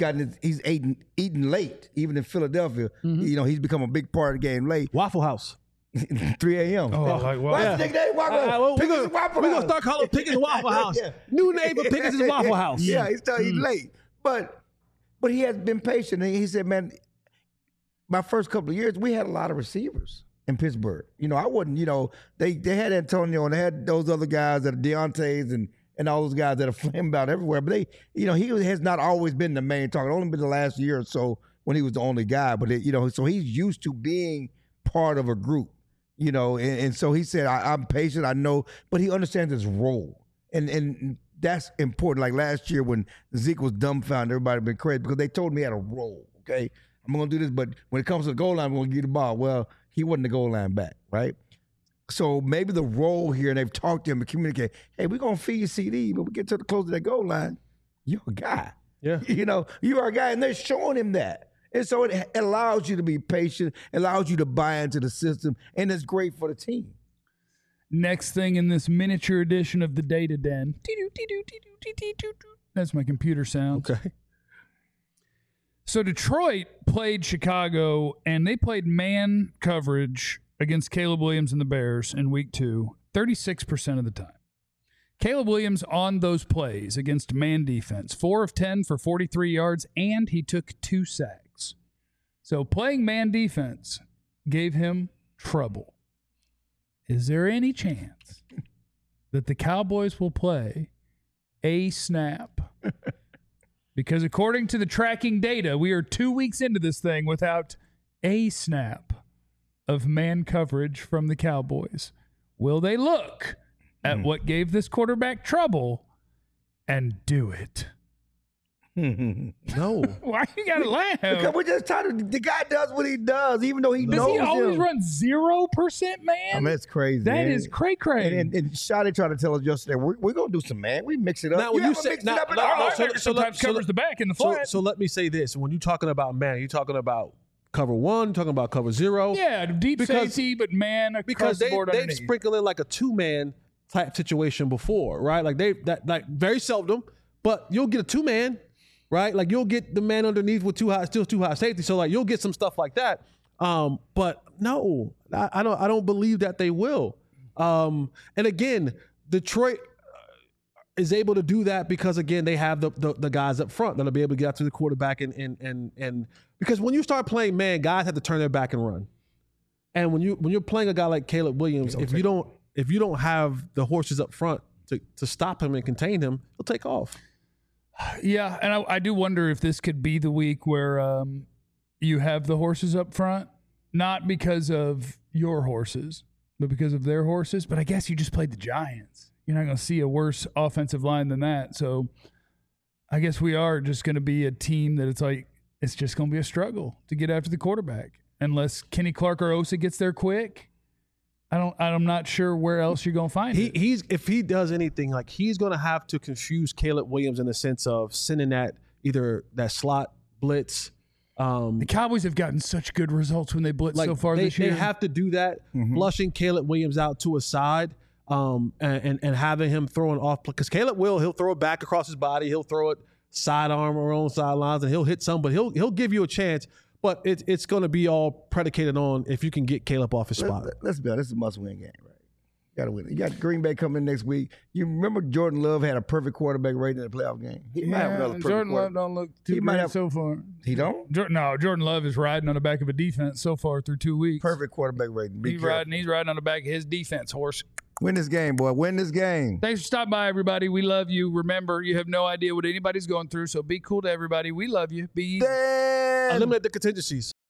eating late, even in Philadelphia. He's become a big part of the game late. Waffle House. 3 a.m. Oh, like what? Yeah. We're going to start calling Pickens Waffle House. Yeah. New name for Pickens is Waffle House. Yeah, he's late. But he has been patient. And he said, man, my first couple of years, we had a lot of receivers in Pittsburgh. I wasn't, they had Antonio and they had those other guys that are Deontay's and all those guys that are flaming about everywhere. But he has not always been the main target. Only been the last year or so when he was the only guy. But, so he's used to being part of a group, and so he said, I'm patient, I know, but he understands his role. And that's important. Like last year when Zeke was dumbfounded, everybody been crazy because they told him he had a role, okay? I'm going to do this, but when it comes to the goal line, I'm going to give the ball. Well, he wasn't the goal line back, right? So maybe the role here, and they've talked to him and communicate, hey, we're going to feed you CD, but we get to the close of that goal line, you're a guy. Yeah. You are a guy, and they're showing him that. And so it allows you to be patient, allows you to buy into the system, and it's great for the team. Next thing in this miniature edition of the Data Den. That's my computer sound. Okay. So Detroit played Chicago, and they played man coverage against Caleb Williams and the Bears in week 2, 36% of the time. Caleb Williams on those plays against man defense, 4 of 10 for 43 yards, and he took 2 sacks. So playing man defense gave him trouble. Is there any chance that the Cowboys will play a snap? Because according to the tracking data, we are 2 weeks into this thing without a snap of man coverage from the Cowboys. Will they look at what gave this quarterback trouble and do it? No. Why you gotta laugh? Because we're just trying to. The guy does what he does, even though he knows. Does he always him. run 0% man? I mean, it's crazy. That is cray-cray. And Shotty tried to tell us yesterday, we're going to do some man. We mix it up. Now, when you say- mix now- it up in now- the now, heart. Sometimes covers the back in the flat. So let me say this. When you're talking about man, you're talking about cover 1, you're talking about cover 0. Yeah, deep Because- safety, but man across Because the board they've underneath. sprinkled in like a 2-man type situation before, right? Like like very seldom, but you'll get a 2-man, right? Like you'll get the man underneath with still too high safety. So like you'll get some stuff like that. But no, I don't believe that they will. And again, Detroit is able to do that because again they have the guys up front that'll be able to get after the quarterback and because when you start playing man, guys have to turn their back and run. And when you're playing a guy like Caleb Williams, if you don't have the horses up front to stop him and contain him, he'll take off. Yeah, and I do wonder if this could be the week where you have the horses up front, not because of your horses, but because of their horses. But I guess you just played the Giants. You're not going to see a worse offensive line than that. So I guess we are just going to be a team that it's just going to be a struggle to get after the quarterback unless Kenny Clark or Osa gets there quick. I'm not sure where else you're going to find it. If he does anything, like he's going to have to confuse Caleb Williams in the sense of sending either that slot blitz. The Cowboys have gotten such good results when they blitz so far this year. They have to do that, flushing Caleb Williams out to a side and having him throwing off. Because Caleb he'll throw it back across his body. He'll throw it sidearm or on sidelines, and he'll hit some, but he'll give you a chance. But it's going to be all predicated on if you can get Caleb off his spot. Let's be honest, this is a must-win game, right? Got to win. You got Green Bay coming next week. You remember Jordan Love had a perfect quarterback rating in the playoff game. He might have another perfect Jordan Love don't look too great so far. He don't? No, Jordan Love is riding on the back of a defense so far through 2 weeks. Perfect quarterback rating. He's riding on the back of his defense horse. Win this game, boy. Win this game. Thanks for stopping by, everybody. We love you. Remember, you have no idea what anybody's going through, so be cool to everybody. We love you. Be easy. Eliminate the contingencies.